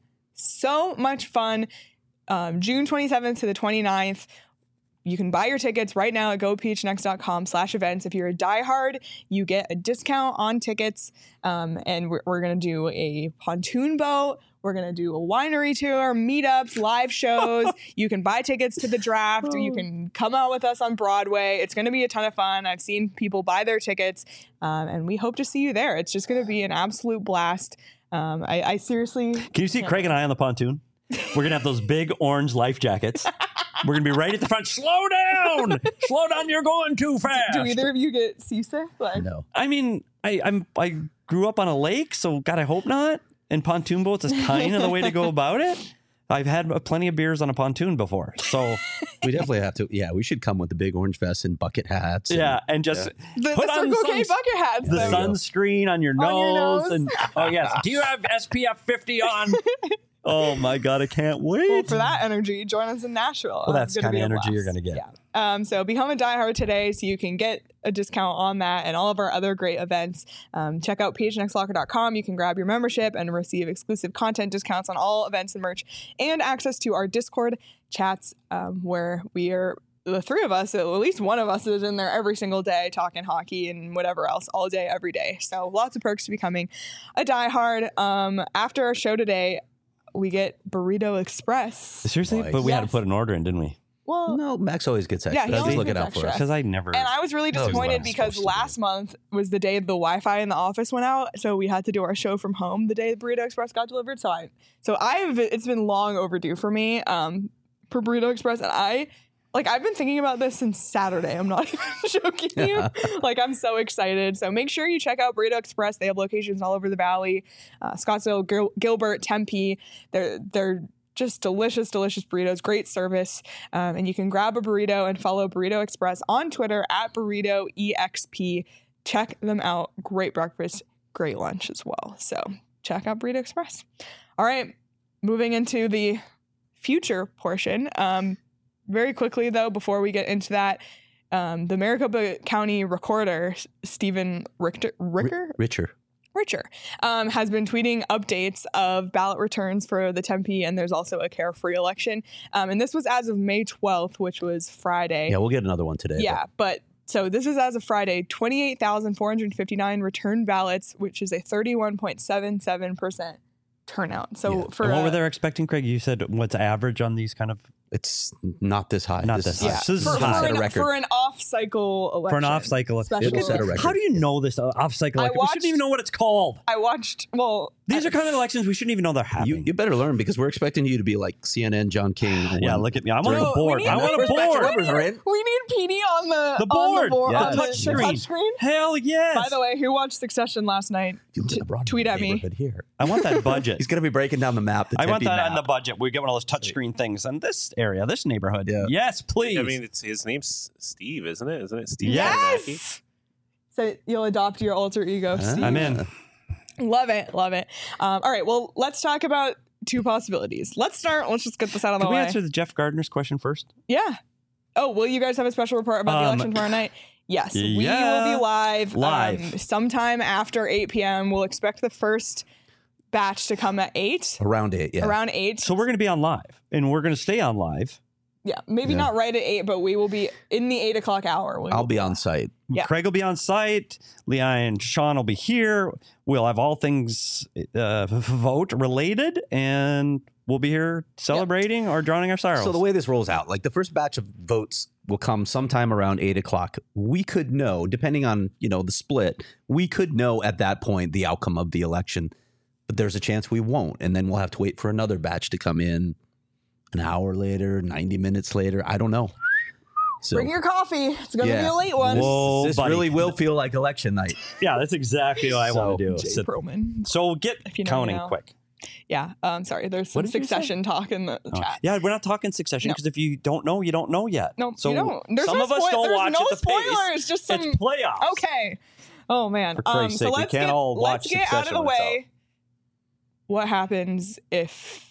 so much fun. Um, June twenty-seventh to the twenty-ninth. You can buy your tickets right now at go p h n x dot com slash events. If you're a diehard, you get a discount on tickets. Um, and we're, we're going to do a pontoon boat. We're going to do a winery tour, meetups, live shows. You can buy tickets to the draft. You can come out with us on Broadway. It's going to be a ton of fun. I've seen people buy their tickets, um, and we hope to see you there. It's just going to be an absolute blast. Um, I, I seriously... Can you see Craig and I on the pontoon? We're going to have those big orange life jackets. We're going to be right at the front. Slow down! Slow down, you're going too fast. Do either of you get seasick? Like, No. I mean, I, I'm I grew up on a lake, so God, I hope not. And pontoon boats is kind of the way to go about it. I've had plenty of beers on a pontoon before, so We definitely have to. Yeah, we should come with the big orange vests and bucket hats. and- yeah, and just The, put the on Circle K suns- bucket hats. the though. sunscreen on your nose, On your nose. and oh yes, do you have S P F fifty on? Oh my God, I can't wait. Well, for that energy, join us in Nashville. Well, that's It's gonna the kinda be a energy you're blast. gonna get. Yeah. Um, so become a diehard today so you can get a discount on that and all of our other great events. Um, check out p h n x locker dot com. You can grab your membership and receive exclusive content discounts on all events and merch, and access to our Discord chats um, where we are the three of us, at least one of us is in there every single day talking hockey and whatever else all day, every day. So lots of perks to becoming a diehard. Um, after our show today, we get Burrito Express. Seriously, Nice. but we had to Yes. put an order in, didn't we? Well, No, Max always gets Yeah, extra. he He's always looking gets out for extra. us. Because I never. and I was really That was what disappointed I'm because supposed to last do. month was the day the Wi-Fi in the office went out, so we had to do our show from home the day the Burrito Express got delivered. So I, so I've it's been long overdue for me um, for Burrito Express, and I like I've been thinking about this since Saturday. I'm not even joking you. Like I'm so excited. So make sure you check out Burrito Express. They have locations all over the valley, uh, Scottsdale, Gil- Gilbert, Tempe. They're they're just delicious, delicious burritos, great service. Um, and you can grab a burrito and follow Burrito Express on Twitter at Burrito E X P. Check them out. Great breakfast, great lunch as well. So check out Burrito Express. All right, moving into the future portion. Um, very quickly, though, before we get into that, um, the Maricopa County Recorder, Stephen Richter, Ricker? Richer. Richer, um, has been tweeting updates of ballot returns for the Tempe, and there's also a Carefree election. Um, and this was as of May twelfth, which was Friday. Yeah, we'll get another one today. Yeah, but so this is as of Friday, twenty-eight thousand four hundred fifty-nine returned ballots, which is a thirty-one point seven seven percent turnout. So Yeah. for And what uh, were they expecting, Craig? You said what's average on these kind of It's not this high. Not this this is high. yeah, So this for, is for, high. Set a an, record. for an off-cycle election. for an off cycle? Special It will set a record. How do you know this uh, off cycle? I election? We shouldn't watched- even know what it's called. I watched. Well, These I- are kind of elections we shouldn't even know they're You, happening. you better learn because we're expecting you to be like C N N John King. yeah, when- look at me. I want No, a board. we need- I want a First batch of board. numbers are in. We need P D on the The on board. the board Yeah. on The the, touch the screen. touch screen. Hell yes. By the way, who watched Succession last night? If you live in the Broadway tweet at me. neighborhood Here. I want that budget. He's going to be breaking down the map. The I want Tempe that on the map. budget. We get one of those touchscreen things in this area, this neighborhood. Yeah. Yes, please. I mean, it's his name's Steve, isn't it? Isn't it Steve? Yes. Abenaki? So you'll adopt your alter ego, Huh? Steve. I'm in. Love it, love it. Um, all right, well, let's talk about two possibilities. Let's start. Let's just get this out of the Can we way. answer the Jeff Gardner's question first? Yeah. Oh, will you guys have a special report about the Um, election tomorrow night? Yes, we yeah. will be live. Live. Um, sometime after eight p.m. We'll expect the first batch to come at eight. Around eight, yeah. Around eight. So we're going to be on live, and we're going to stay on live. Yeah, maybe Yeah. not right at eight, but we will be in the eight o'clock hour. We I'll will be on site. Yeah. Craig will be on site. Leah and Sean will be here. We'll have all things uh, vote related, and we'll be here celebrating or drowning our sorrows. So the way this rolls out, like the first batch of votes will come sometime around eight o'clock. We could know, depending on, you know, the split, we could know at that point the outcome of the election. But there's a chance we won't. And then we'll have to wait for another batch to come in an hour later, ninety minutes later. I don't know. So Bring your coffee. It's going to Yeah. be a late one. Whoa, this buddy. really will feel like election night. yeah, that's exactly what I So, want to do. Jay So, Perlman. so get If you know, counting you know. quick. Yeah. Um. Sorry. There's What some did you say? Succession talk in the Oh. chat. Yeah, we're not talking Succession No. because if you don't know, you don't know yet. No, so you don't. There's some no of us spoil- don't there's watch no at the spoilers. pace. Just some. It's playoffs. Okay. Oh man. For Um. Christ's So sake, we let's can't get all let's watch get out of Succession the when it's way. What happens if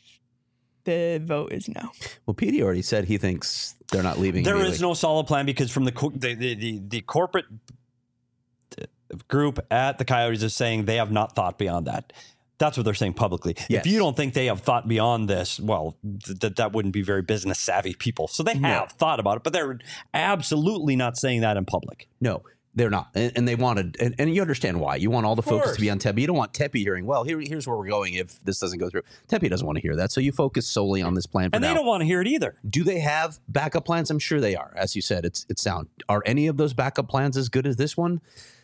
the vote is no? Well, Petey already said he thinks they're not leaving. There immediately. is no solid plan because from the co- the the, the, the corporate group at the Coyotes is saying they have not thought beyond that. That's what they're saying publicly. Yes. If you don't think they have thought beyond this, well, th- th- that wouldn't be very business savvy people. So they have No. thought about it, but they're absolutely not saying that in public. No, they're not. And, and they wanted, and, and you understand why. You want all the focus course. to be on Tempe. You don't want Tempe hearing, well, here, here's where we're going if this doesn't go through. Tempe doesn't want to hear that. So you focus solely on this plan for And they now. don't want to hear it either. Do they have backup plans? I'm sure they are. As you said, it's it's sound. Are any of those backup plans as good as this one?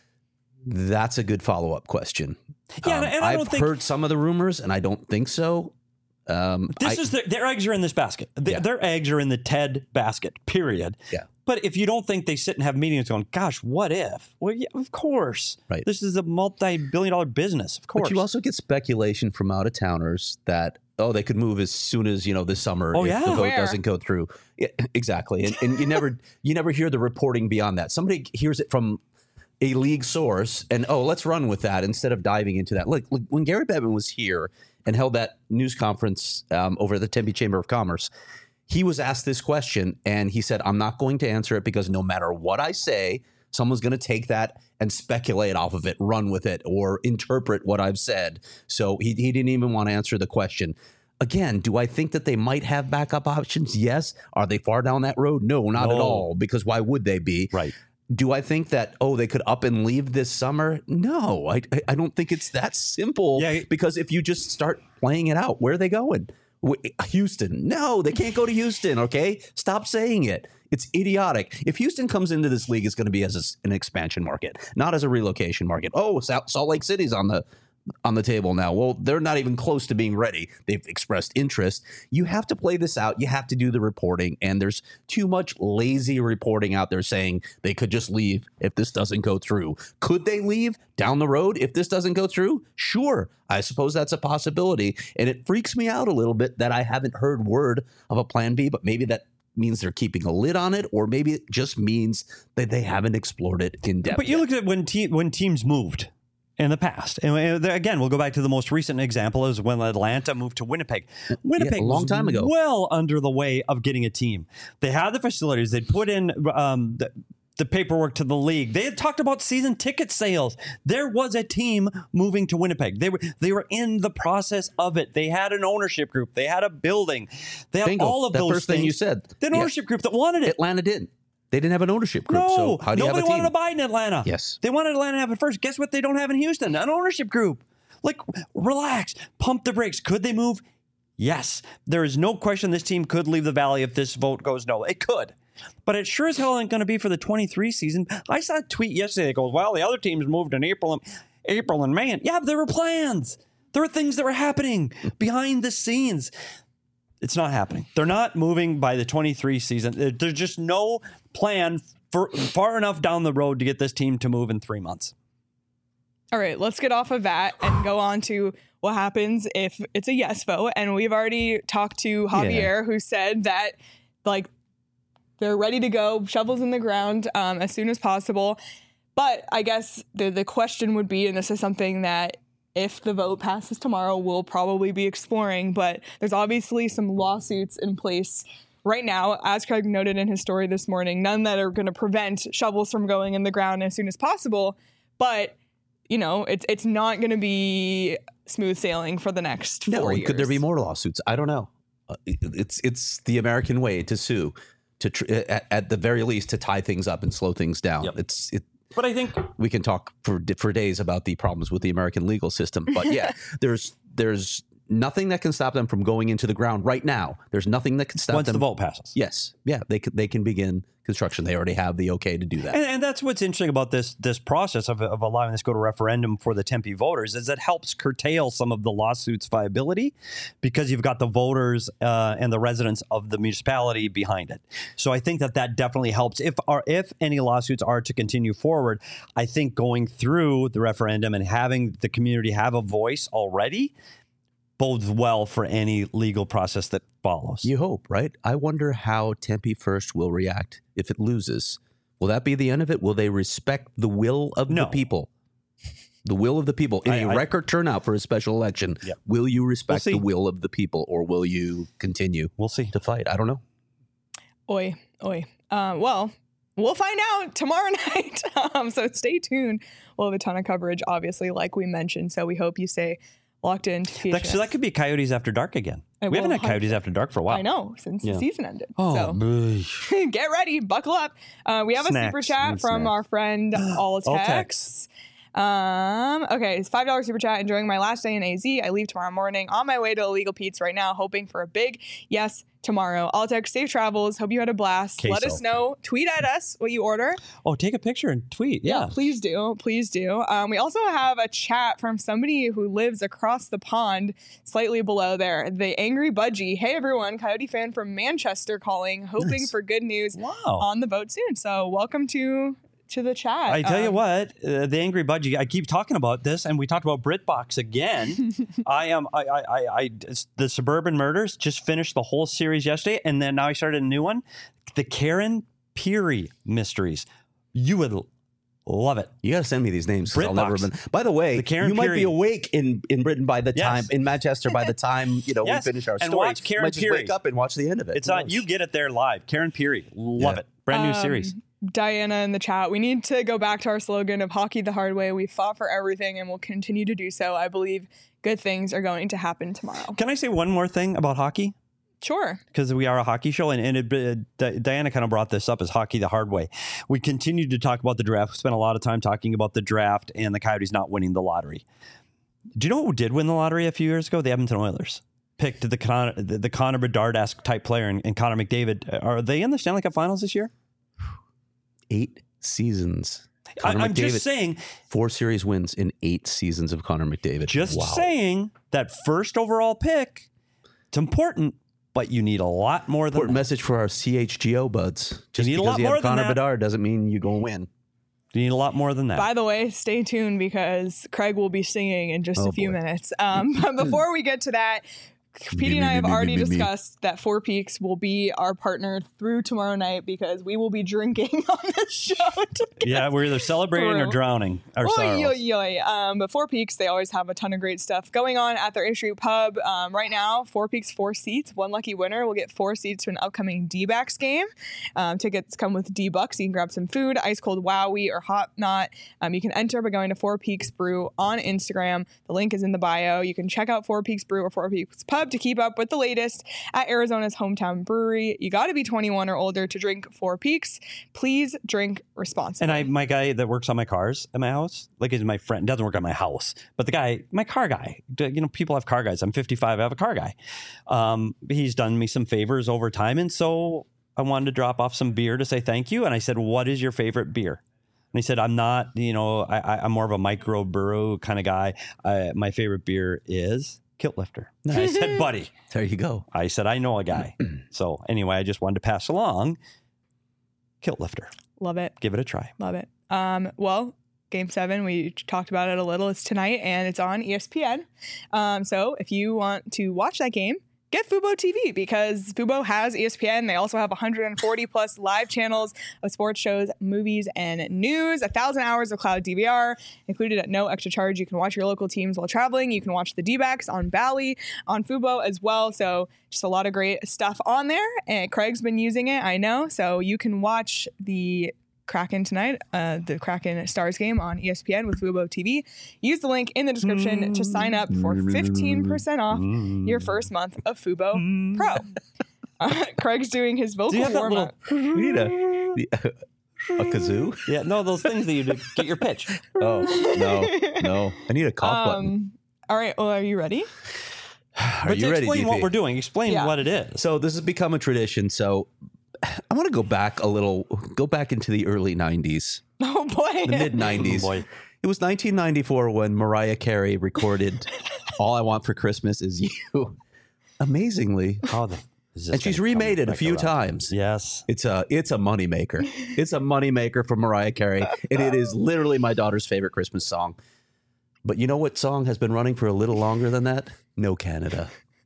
That's a good follow-up question. Yeah, Um, and I I've don't think heard some of the rumors, and I don't think so. Um, this I- is their, their eggs are in this basket. Their, Yeah. their eggs are in the Ted basket, period. Yeah. But if you don't think they sit and have meetings going, gosh, what if? Well, yeah, of course. Right. This is a multi-billion dollar business, of course. But you also get speculation from out of towners that, oh, they could move as soon as, you know, this summer Oh, if yeah? the vote Where? doesn't go through. Yeah, exactly. And, and you never you never hear the reporting beyond that. Somebody hears it from a league source and, oh, let's run with that instead of diving into that. Look, look when Gary Bettman was here and held that news conference um, over at the Tempe Chamber of Commerce, he was asked this question and he said, I'm not going to answer it because no matter what I say, someone's going to take that and speculate off of it, run with it, or interpret what I've said. So he, he didn't even want to answer the question. Again, do I think that they might have backup options? Yes. Are they far down that road? No, not at No. all, because why would they be? Right. Do I think that, oh, they could up and leave this summer? No, I, I don't think it's that simple. Yeah. Because if you just start playing it out, where are they going? Wh- Houston. No, they can't go to Houston, okay? Stop saying it. It's idiotic. If Houston comes into this league, it's going to be as a, an expansion market, not as a relocation market. Oh, Salt, Salt Lake City's on the on the table now. Well, they're not even close to being ready. They've expressed interest. You have to play this out. You have to do the reporting. And there's too much lazy reporting out there saying they could just leave if this doesn't go through. Could they leave down the road if this doesn't go through? Sure. I suppose that's a possibility. And it freaks me out a little bit that I haven't heard word of a plan B, but maybe that means they're keeping a lid on it, or maybe it just means that they haven't explored it in depth. But you yet. look at when te- when teams moved in the past, and uh, again, we'll go back to the most recent example is when Atlanta moved to Winnipeg. Winnipeg, a long was time ago. well under the way of getting a team. They had the facilities. They'd put in um, the, the paperwork to the league. They had talked about season ticket sales. There was a team moving to Winnipeg. They were they were in the process of it. They had an ownership group. They had a building. They had Bingo. all of That those first things. thing you said. They had an Yeah. ownership group that wanted it. Atlanta didn't. They didn't have an ownership group. No, so how do you have nobody a team? wanted to buy in Atlanta. Yes. They wanted Atlanta to have it first. Guess what they don't have in Houston? An ownership group. Like, relax. Pump the brakes. Could they move? Yes. There is no question this team could leave the Valley if this vote goes no. It could. But it sure as hell ain't going to be for the twenty-three season. I saw a tweet yesterday that goes, well, the other teams moved in April and, April and May. And yeah, there were plans. There were things that were happening behind the scenes. It's not happening. They're not moving by the twenty-three season. There- There's just no plan for far enough down the road to get this team to move in three months. All right, let's get off of that and go on to what happens if it's a yes vote. And we've already talked to Javier, who said that, like, they're ready to go, shovels in the ground um, as soon as possible. But I guess the the question would be, and this is something that if the vote passes tomorrow, we'll probably be exploring, but there's obviously some lawsuits in place right now, as Craig noted in his story this morning, none that are going to prevent shovels from going in the ground as soon as possible. But, you know, it's it's not going to be smooth sailing for the next four No, years. could there be more lawsuits? I don't know. Uh, it- it's it's the American way to sue, to tr- at, at the very least to tie things up and slow things down. Yep. It's it. But I think We can talk for for days about the problems with the American legal system, but yeah, there's there's nothing that can stop them from going into the ground right now. There's nothing that can stop once them. the vote passes. Yes, yeah, they can, they can begin construction. They already have the okay to do that. And, and that's what's interesting about this this process of, of allowing this to go to referendum for the Tempe voters is it helps curtail some of the lawsuits' viability because you've got the voters uh, and the residents of the municipality behind it. So I think that that definitely helps. If our, if any lawsuits are to continue forward, I think going through the referendum and having the community have a voice already bodes well for any legal process that follows. You hope, right? I wonder how Tempe First will react if it loses. Will that be the end of it? Will they respect the will of No. the people? The will of the people in I- a I- record turnout for a special election. Yep. Will you respect We'll the see. will of the people, or will you continue We'll see. to fight? I don't know. Oi, oi. Uh, well, we'll find out tomorrow night. Um, so stay tuned. We'll have a ton of coverage, obviously, like we mentioned. So we hope you stay locked into P H N X. That, so that could be Coyotes After Dark again. It we will, haven't had one hundred percent. Coyotes After Dark for a while. I know, since Yeah. the season ended. Oh, so boy. get ready, buckle up. Uh, we have Snacks. a super chat Need from snacks. our friend Alltex. Alltex. Um, okay, it's five dollars super chat. Enjoying my last day in A Z. I leave tomorrow morning. On my way to Illegal Pete's right now, hoping for a big yes tomorrow. Alltex, safe travels. Hope you had a blast. Let Queso. us know. Tweet at us what you order. Oh, take a picture and tweet. Yeah. Please do. Please do. Um, we also have a chat from somebody who lives across the pond, slightly below there. The Angry Budgie. Hey, everyone. Coyote fan from Manchester calling, hoping Nice. for good news Wow. on the boat soon. So welcome to to the chat. I tell you Um, what, uh, the Angry Budgie. I keep talking about this, and we talked about BritBox again. I am. I, I. I. I. The Suburban Murders just finished the whole series yesterday, and then now I started a new one, the Karen Peary Mysteries. You would love it. You got to send me these names. 'Cause I'll never BritBox. been. By the way, The Karen you might Peary. be awake in, in Britain by the Yes. time in Manchester by the time you know Yes. we finish our And story. watch Karen you might just Peary. wake up and watch the end of it. It's Who on. knows? You get it there live. Karen Peary. Love Yeah. it. Brand new Um, series. Diana in the chat. We need to go back to our slogan of hockey the hard way. We fought for everything and will continue to do so. I believe good things are going to happen tomorrow. Can I say one more thing about hockey? Sure. Because we are a hockey show, and, and it, uh, Di- Diana kind of brought this up as hockey the hard way. We continued to talk about the draft. We spent a lot of time talking about the draft and the Coyotes not winning the lottery. Do you know who did win the lottery a few years ago? The Edmonton Oilers picked the Con- the, the Connor Bedard-esque type player and, and Connor McDavid. Are they in the Stanley Cup Finals this year? Eight seasons. I, Connor I'm McDavid, just saying. four series wins in eight seasons of Connor McDavid. Just wow. saying that first overall pick. It's important, but you need a lot more than Important that. message for our C H G O buds. Just need a because lot you more have than Connor that. Bedard doesn't mean you go win. You need a lot more than that. By the way, stay tuned because Craig will be singing in just Oh, a few boy. minutes. Um, but before we get to that, Petey and I have already discussed that Four Peaks will be our partner through tomorrow night because we will be drinking on this show. yeah, we're either celebrating or True. drowning our Oy, sorrows. oy, oy. Um, but Four Peaks, they always have a ton of great stuff going on at their A Street Pub. Um, right now, Four Peaks, four seats. One lucky winner will get four seats to an upcoming D-backs game. Um, tickets come with D-bucks. You can grab some food, ice cold Wowie or Hot Knot. Um, you can enter by going to Four Peaks Brew on Instagram. The link is in the bio. You can check out Four Peaks Brew or Four Peaks Pub to keep up with the latest at Arizona's hometown brewery. You got to be twenty-one or older to drink Four Peaks. Please drink responsibly. And I, my guy that works on my cars at my house, like is my friend, doesn't work at my house, but the guy, my car guy, you know, people have car guys. I'm fifty-five. I have a car guy. Um, he's done me some favors over time. And so I wanted to drop off some beer to say thank you. And I said, what is your favorite beer? And he said, I'm not, you know, I, I, I'm more of a micro brew kind of guy. Uh, my favorite beer is Kilt Lifter. And I said, buddy, There you go. I said, I know a guy. So anyway, I just wanted to pass along Kilt Lifter. Love it. Give it a try. Love it. Um, well, Game seven, we talked about it a little. It's tonight, and it's on E S P N. Um, so if you want to watch that game, get Fubo T V because Fubo has E S P N. They also have one hundred forty plus live channels of sports shows, movies, and news. A thousand hours of cloud D V R included at no extra charge. You can watch your local teams while traveling. You can watch the D-backs on Bally, on Fubo as well. So just a lot of great stuff on there. And Craig's been using it, I know. So you can watch the Kraken tonight, uh, the Kraken Stars game on E S P N with Fubo T V. Use the link in the description to sign up for fifteen percent off your first month of Fubo Pro. Uh, Craig's doing his vocal Do you have that warm up. We need a, the- a kazoo. Yeah, no, those things that you do, get your pitch. Oh no, no! I need a cough button. Um, all right, well, are you ready? Are But you to ready, explain D P? what we're doing, explain Yeah. what it is. So this has become a tradition. So I want to go back a little, go back into the early nineties, Oh boy. the mid nineties. Oh, boy. It was nineteen ninety-four when Mariah Carey recorded "All I Want for Christmas Is You." Amazingly, How the, is this and she's gonna remade come it a back few around? times. Yes. It's a it's a moneymaker. It's a moneymaker for Mariah Carey, and it is literally my daughter's favorite Christmas song. But you know what song has been running for a little longer than that? No Canada.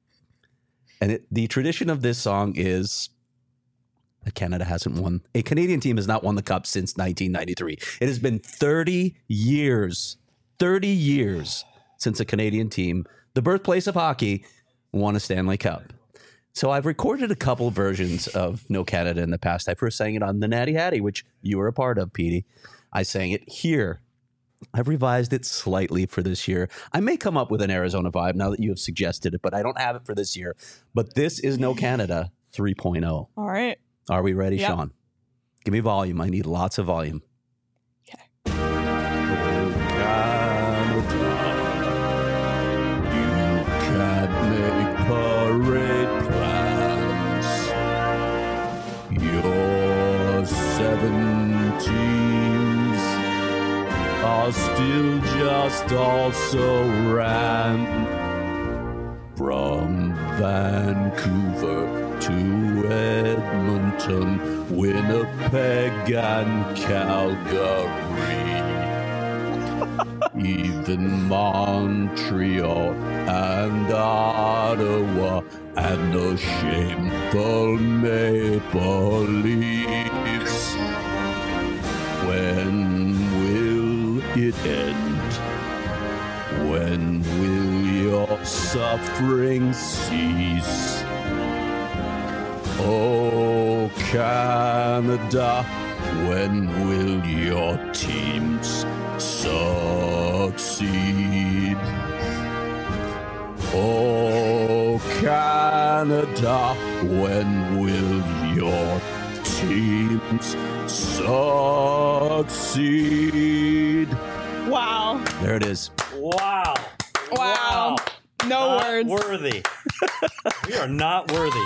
And it, the tradition of this song is that Canada hasn't won. A Canadian team has not won the Cup since nineteen ninety-three. It has been thirty years, thirty years since a Canadian team, the birthplace of hockey, won a Stanley Cup. So I've recorded a couple versions of No Canada in the past. I first sang it on the Natty Hattie, which you were a part of, Petey. I sang it here. I've revised it slightly for this year. I may come up with an Arizona vibe now that you have suggested it, but I don't have it for this year. But this is No Canada three point oh. All right. Are we ready, Yep. Sean? Give me volume. I need lots of volume. Okay. Oh, Canada, you can't make parade plans. Your seventies are still just also ran from Vancouver to Edmonton, Winnipeg and Calgary. Even Montreal and Ottawa and the shameful Maple Leafs. When will it end? When will your suffering cease? Oh, Canada, when will your teams succeed? Oh, Canada, when will your teams succeed? Wow. There it is. Wow. Wow. No Not words. worthy. We are not worthy.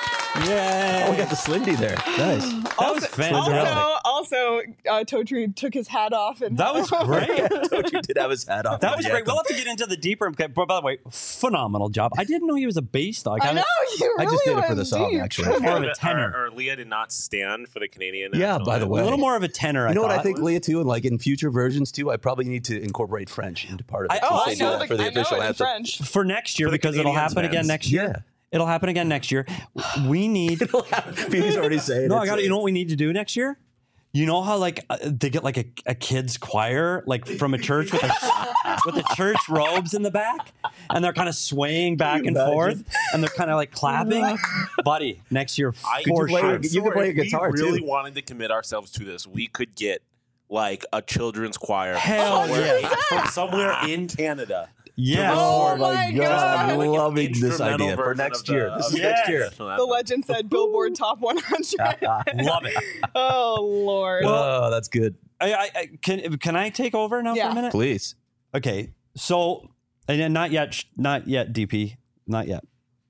Yay. Oh, we got the Slindy there. Nice. That was fantastic. Also, also, uh, Totri took his hat off and That was great. Told you did have his hat off. That was Yeah. great. We'll have to get into the deeper. But by the way, phenomenal job. I didn't know he was a bass dog. I know you I really just did it for went the song, deep. actually. More of a Or, tenor. or, or Leah did not stand for the Canadian. Yeah, national by the anthem. way. A little more of a tenor. You know what I thought. think, Leah, too? And like in future versions, too, I probably need to incorporate French into part of it. I- since Oh, they I do know, that the, for the I know official it in anthem. French. For next year, For the because it'll Canadians, happen again fans. next year. Yeah. It'll happen again next year. We need. He's already saying No, it. I got. You know what we need to do next year? You know how like uh, they get like a, a kids choir like from a church with a, with the church robes in the back, and they're kind of swaying back and imagine? forth, and they're kind of like clapping. Buddy, next year I for play sure. a- you can play a if guitar, we really too. wanted to commit ourselves to this, we could get like a children's choir Hell somewhere, yeah. from somewhere in Canada. Yes. Oh my my God. God. I'm Like an loving this instrumental idea for version next of the- year. This of is the next year. national The anthem. legend said Billboard Top one hundred. Love it. Oh Lord. Oh, that's good. I, I, I can can I take over now for Yeah. a minute? Please. Okay, so and then not yet, sh- not yet, D P, not yet.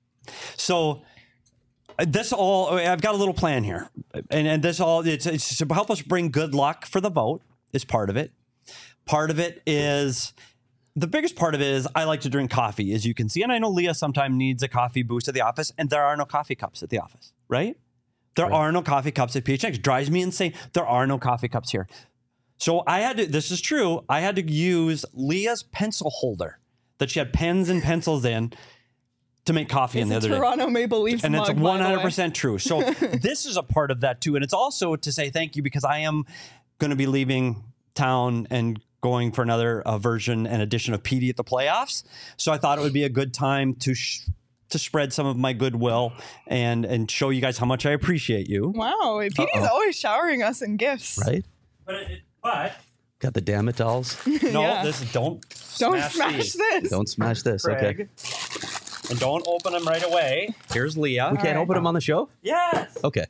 So uh, this all I've got a little plan here, and and this all it's, it's to help us bring good luck for the vote is part of it. Part of it is the biggest part of it is I like to drink coffee, as you can see, and I know Leah sometimes needs a coffee boost at the office, and there are no coffee cups at the office, right? There are no coffee cups at P H X. Drives me insane. There are no coffee cups here. So I had to, this is true, I had to use Leah's pencil holder that she had pens and pencils in to make coffee in It's the a other day. Toronto Maple Leafs And it's mug, by one the hundred way. percent true. So this is a part of that too. And it's also to say thank you because I am going to be leaving town and going for another uh, version and edition of P D at the playoffs. So I thought it would be a good time to sh- to spread some of my goodwill and and show you guys how much I appreciate you. Wow, P D's always showering us in gifts. Right? But, it, but Got the damn it dolls. no, Yeah. this don't Don't smash, smash these. this. Don't smash this. Craig. Okay. And don't open them right away. Here's Leah. We can't open them on the show? Yes. Okay.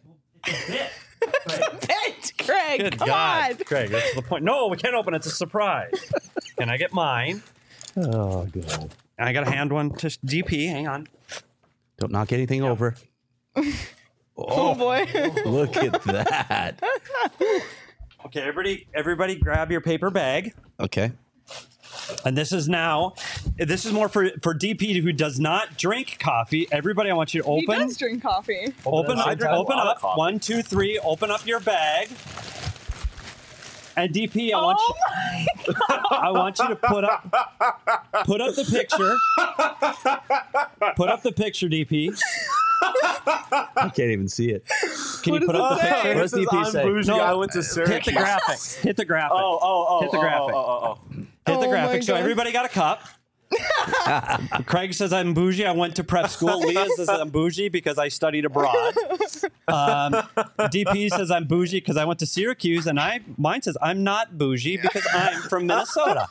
Pit, Craig. Good come God, on. Craig. That's the point. No, we can't open it. It's a surprise. Can I get mine? Oh, God. And I got to hand one to D P. Hang on. Don't knock anything over. Oh boy. Look at that. Okay, everybody, everybody, grab your paper bag. Okay. And this is now. This is more for for D P who does not drink coffee. Everybody, I want you to He open. does drink coffee. Open I up. drink a Open lot of up. coffee. One, two, three. Open up your bag. And D P, I want Oh you. I want you to put up. Put up the picture. Put up the picture, D P. I can't even see it. Can What you put does up it the say? picture? What does D P say? Bougie, No. I went to Syracuse. Hit the graphic. Hit the graphic. Oh, oh, oh. Hit the oh, graphic. Oh, oh, oh, oh. Hit the Oh my graphic. So God. everybody got a cup. Craig says I'm bougie. I went to prep school. Leah says I'm bougie because I studied abroad. Um, D P says I'm bougie because I went to Syracuse, and I mine says I'm not bougie because I'm from Minnesota.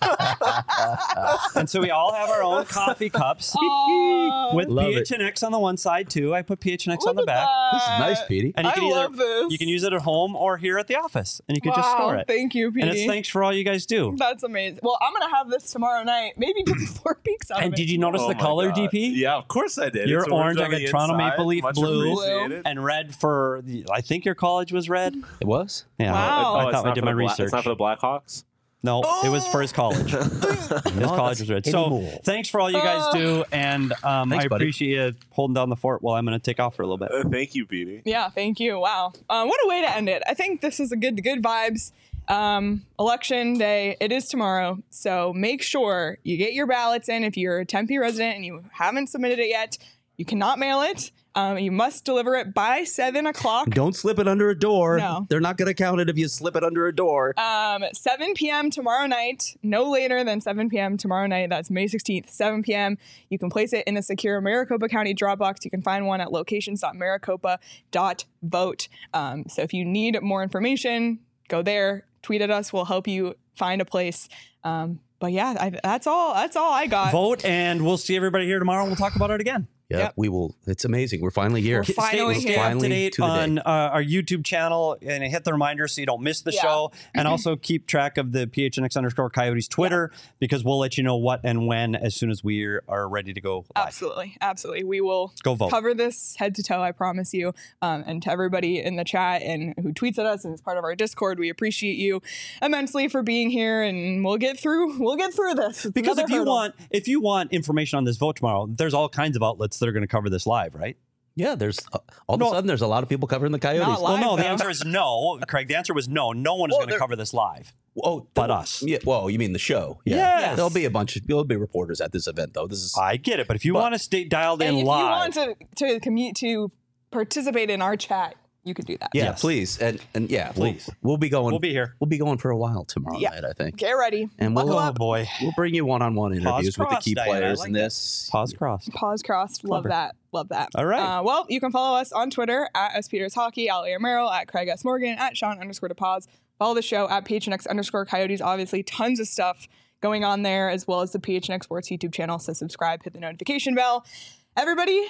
And so we all have our own coffee cups Aw. with Love P H N X on the one side too. I put P H N X on the Look at back. This is that. nice, Petey. And you I can either love this. you can use it at home or here at the office, and you can wow, just store it. Thank you, And it's Petey. thanks for all you guys do. That's amazing. Well, I'm gonna have this tomorrow night. Maybe get four peaks out of And it. did you notice Oh the my color, God. D P? Yeah, of course I did. You're It's orange. I on got the Toronto inside. Maple Leaf Much blue, appreciated. and red for. The, I think your college was red. It was? Yeah, Wow. Oh, I it's thought I not did for my the Bla- research. It's not for the Blackhawks. No, it was for his college. His college was red. So anymore. thanks for all you guys do, and um, Thanks, I buddy. appreciate you holding down the fort while I'm going to take off for a little bit. Uh, thank you, Petey. Yeah, thank you. Wow. Um, what a way to end it. I think this is a good good vibes. Um, election day, it is tomorrow. So make sure you get your ballots in. If you're a Tempe resident and you haven't submitted it yet, you cannot mail it. Um, you must deliver it by seven o'clock. Don't slip it under a door. No. They're not going to count it if you slip it under a door. Um, seven p.m. tomorrow night, no later than seven p.m. tomorrow night. That's May sixteenth, seven p.m. You can place it in a secure Maricopa County drop box. You can find one at locations dot maricopa dot vote. Um, so if you need more information, go there, tweet at us. We'll help you find a place. Um, but yeah, I, that's all. That's all I got. Vote, and we'll see everybody here tomorrow, and we'll talk about it again. Yeah, Yep. we will. It's amazing. We're finally here. We're finally stay, here. stay up to Finally date to the day. on uh, our YouTube channel and hit the reminder so you don't miss the Yeah. show. And also keep track of the P H N X underscore Coyotes Twitter because we'll let you know what and when as soon as we are ready to go live. Absolutely. Absolutely. We will Go vote. cover this head to toe, I promise you. Um, and to everybody in the chat and who tweets at us and is part of our Discord, we appreciate you immensely for being here, and we'll get through we'll get through this. It's Because another if you hurdle. want if you want information on this vote tomorrow, there's all kinds of outlets that are going to cover this live, right? Yeah, there's uh, all No. of a sudden there's a lot of people covering the Coyotes. Not Well, live, no, the though. answer is no. Craig, the answer was no. No one is Well, going to there- cover this live. Oh, But th- us. Yeah. Well, you mean the show? Yeah. Yes. There'll be a bunch of there'll be reporters at this event though. This is I get it, but if you But- want to stay dialed And in if live, you want to to commute to participate in our chat, you could do that. yeah, Yes. please and and yeah, Please. We'll, we'll be going. we'll be here. We'll be going for a while tomorrow Yeah. night, I think. Get ready. And Buckle we'll, Oh up. boy. We'll bring you one-on-one interviews with the crossed, key Diane. I players like in that. this. Pause crossed. Pause crossed. Love Clever. that. Love that. All right. Uh, well, you can follow us on Twitter at S Peters Hockey, at Leo Merrill, at Craig S. Morgan, at Sean underscore DePause. Follow the show at P H N X underscore Coyotes. Obviously, tons of stuff going on there, as well as the P H N X Sports YouTube channel. So subscribe, hit the notification bell. Everybody,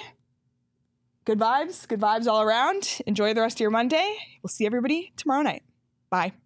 good vibes. Good vibes all around. Enjoy the rest of your Monday. We'll see everybody tomorrow night. Bye.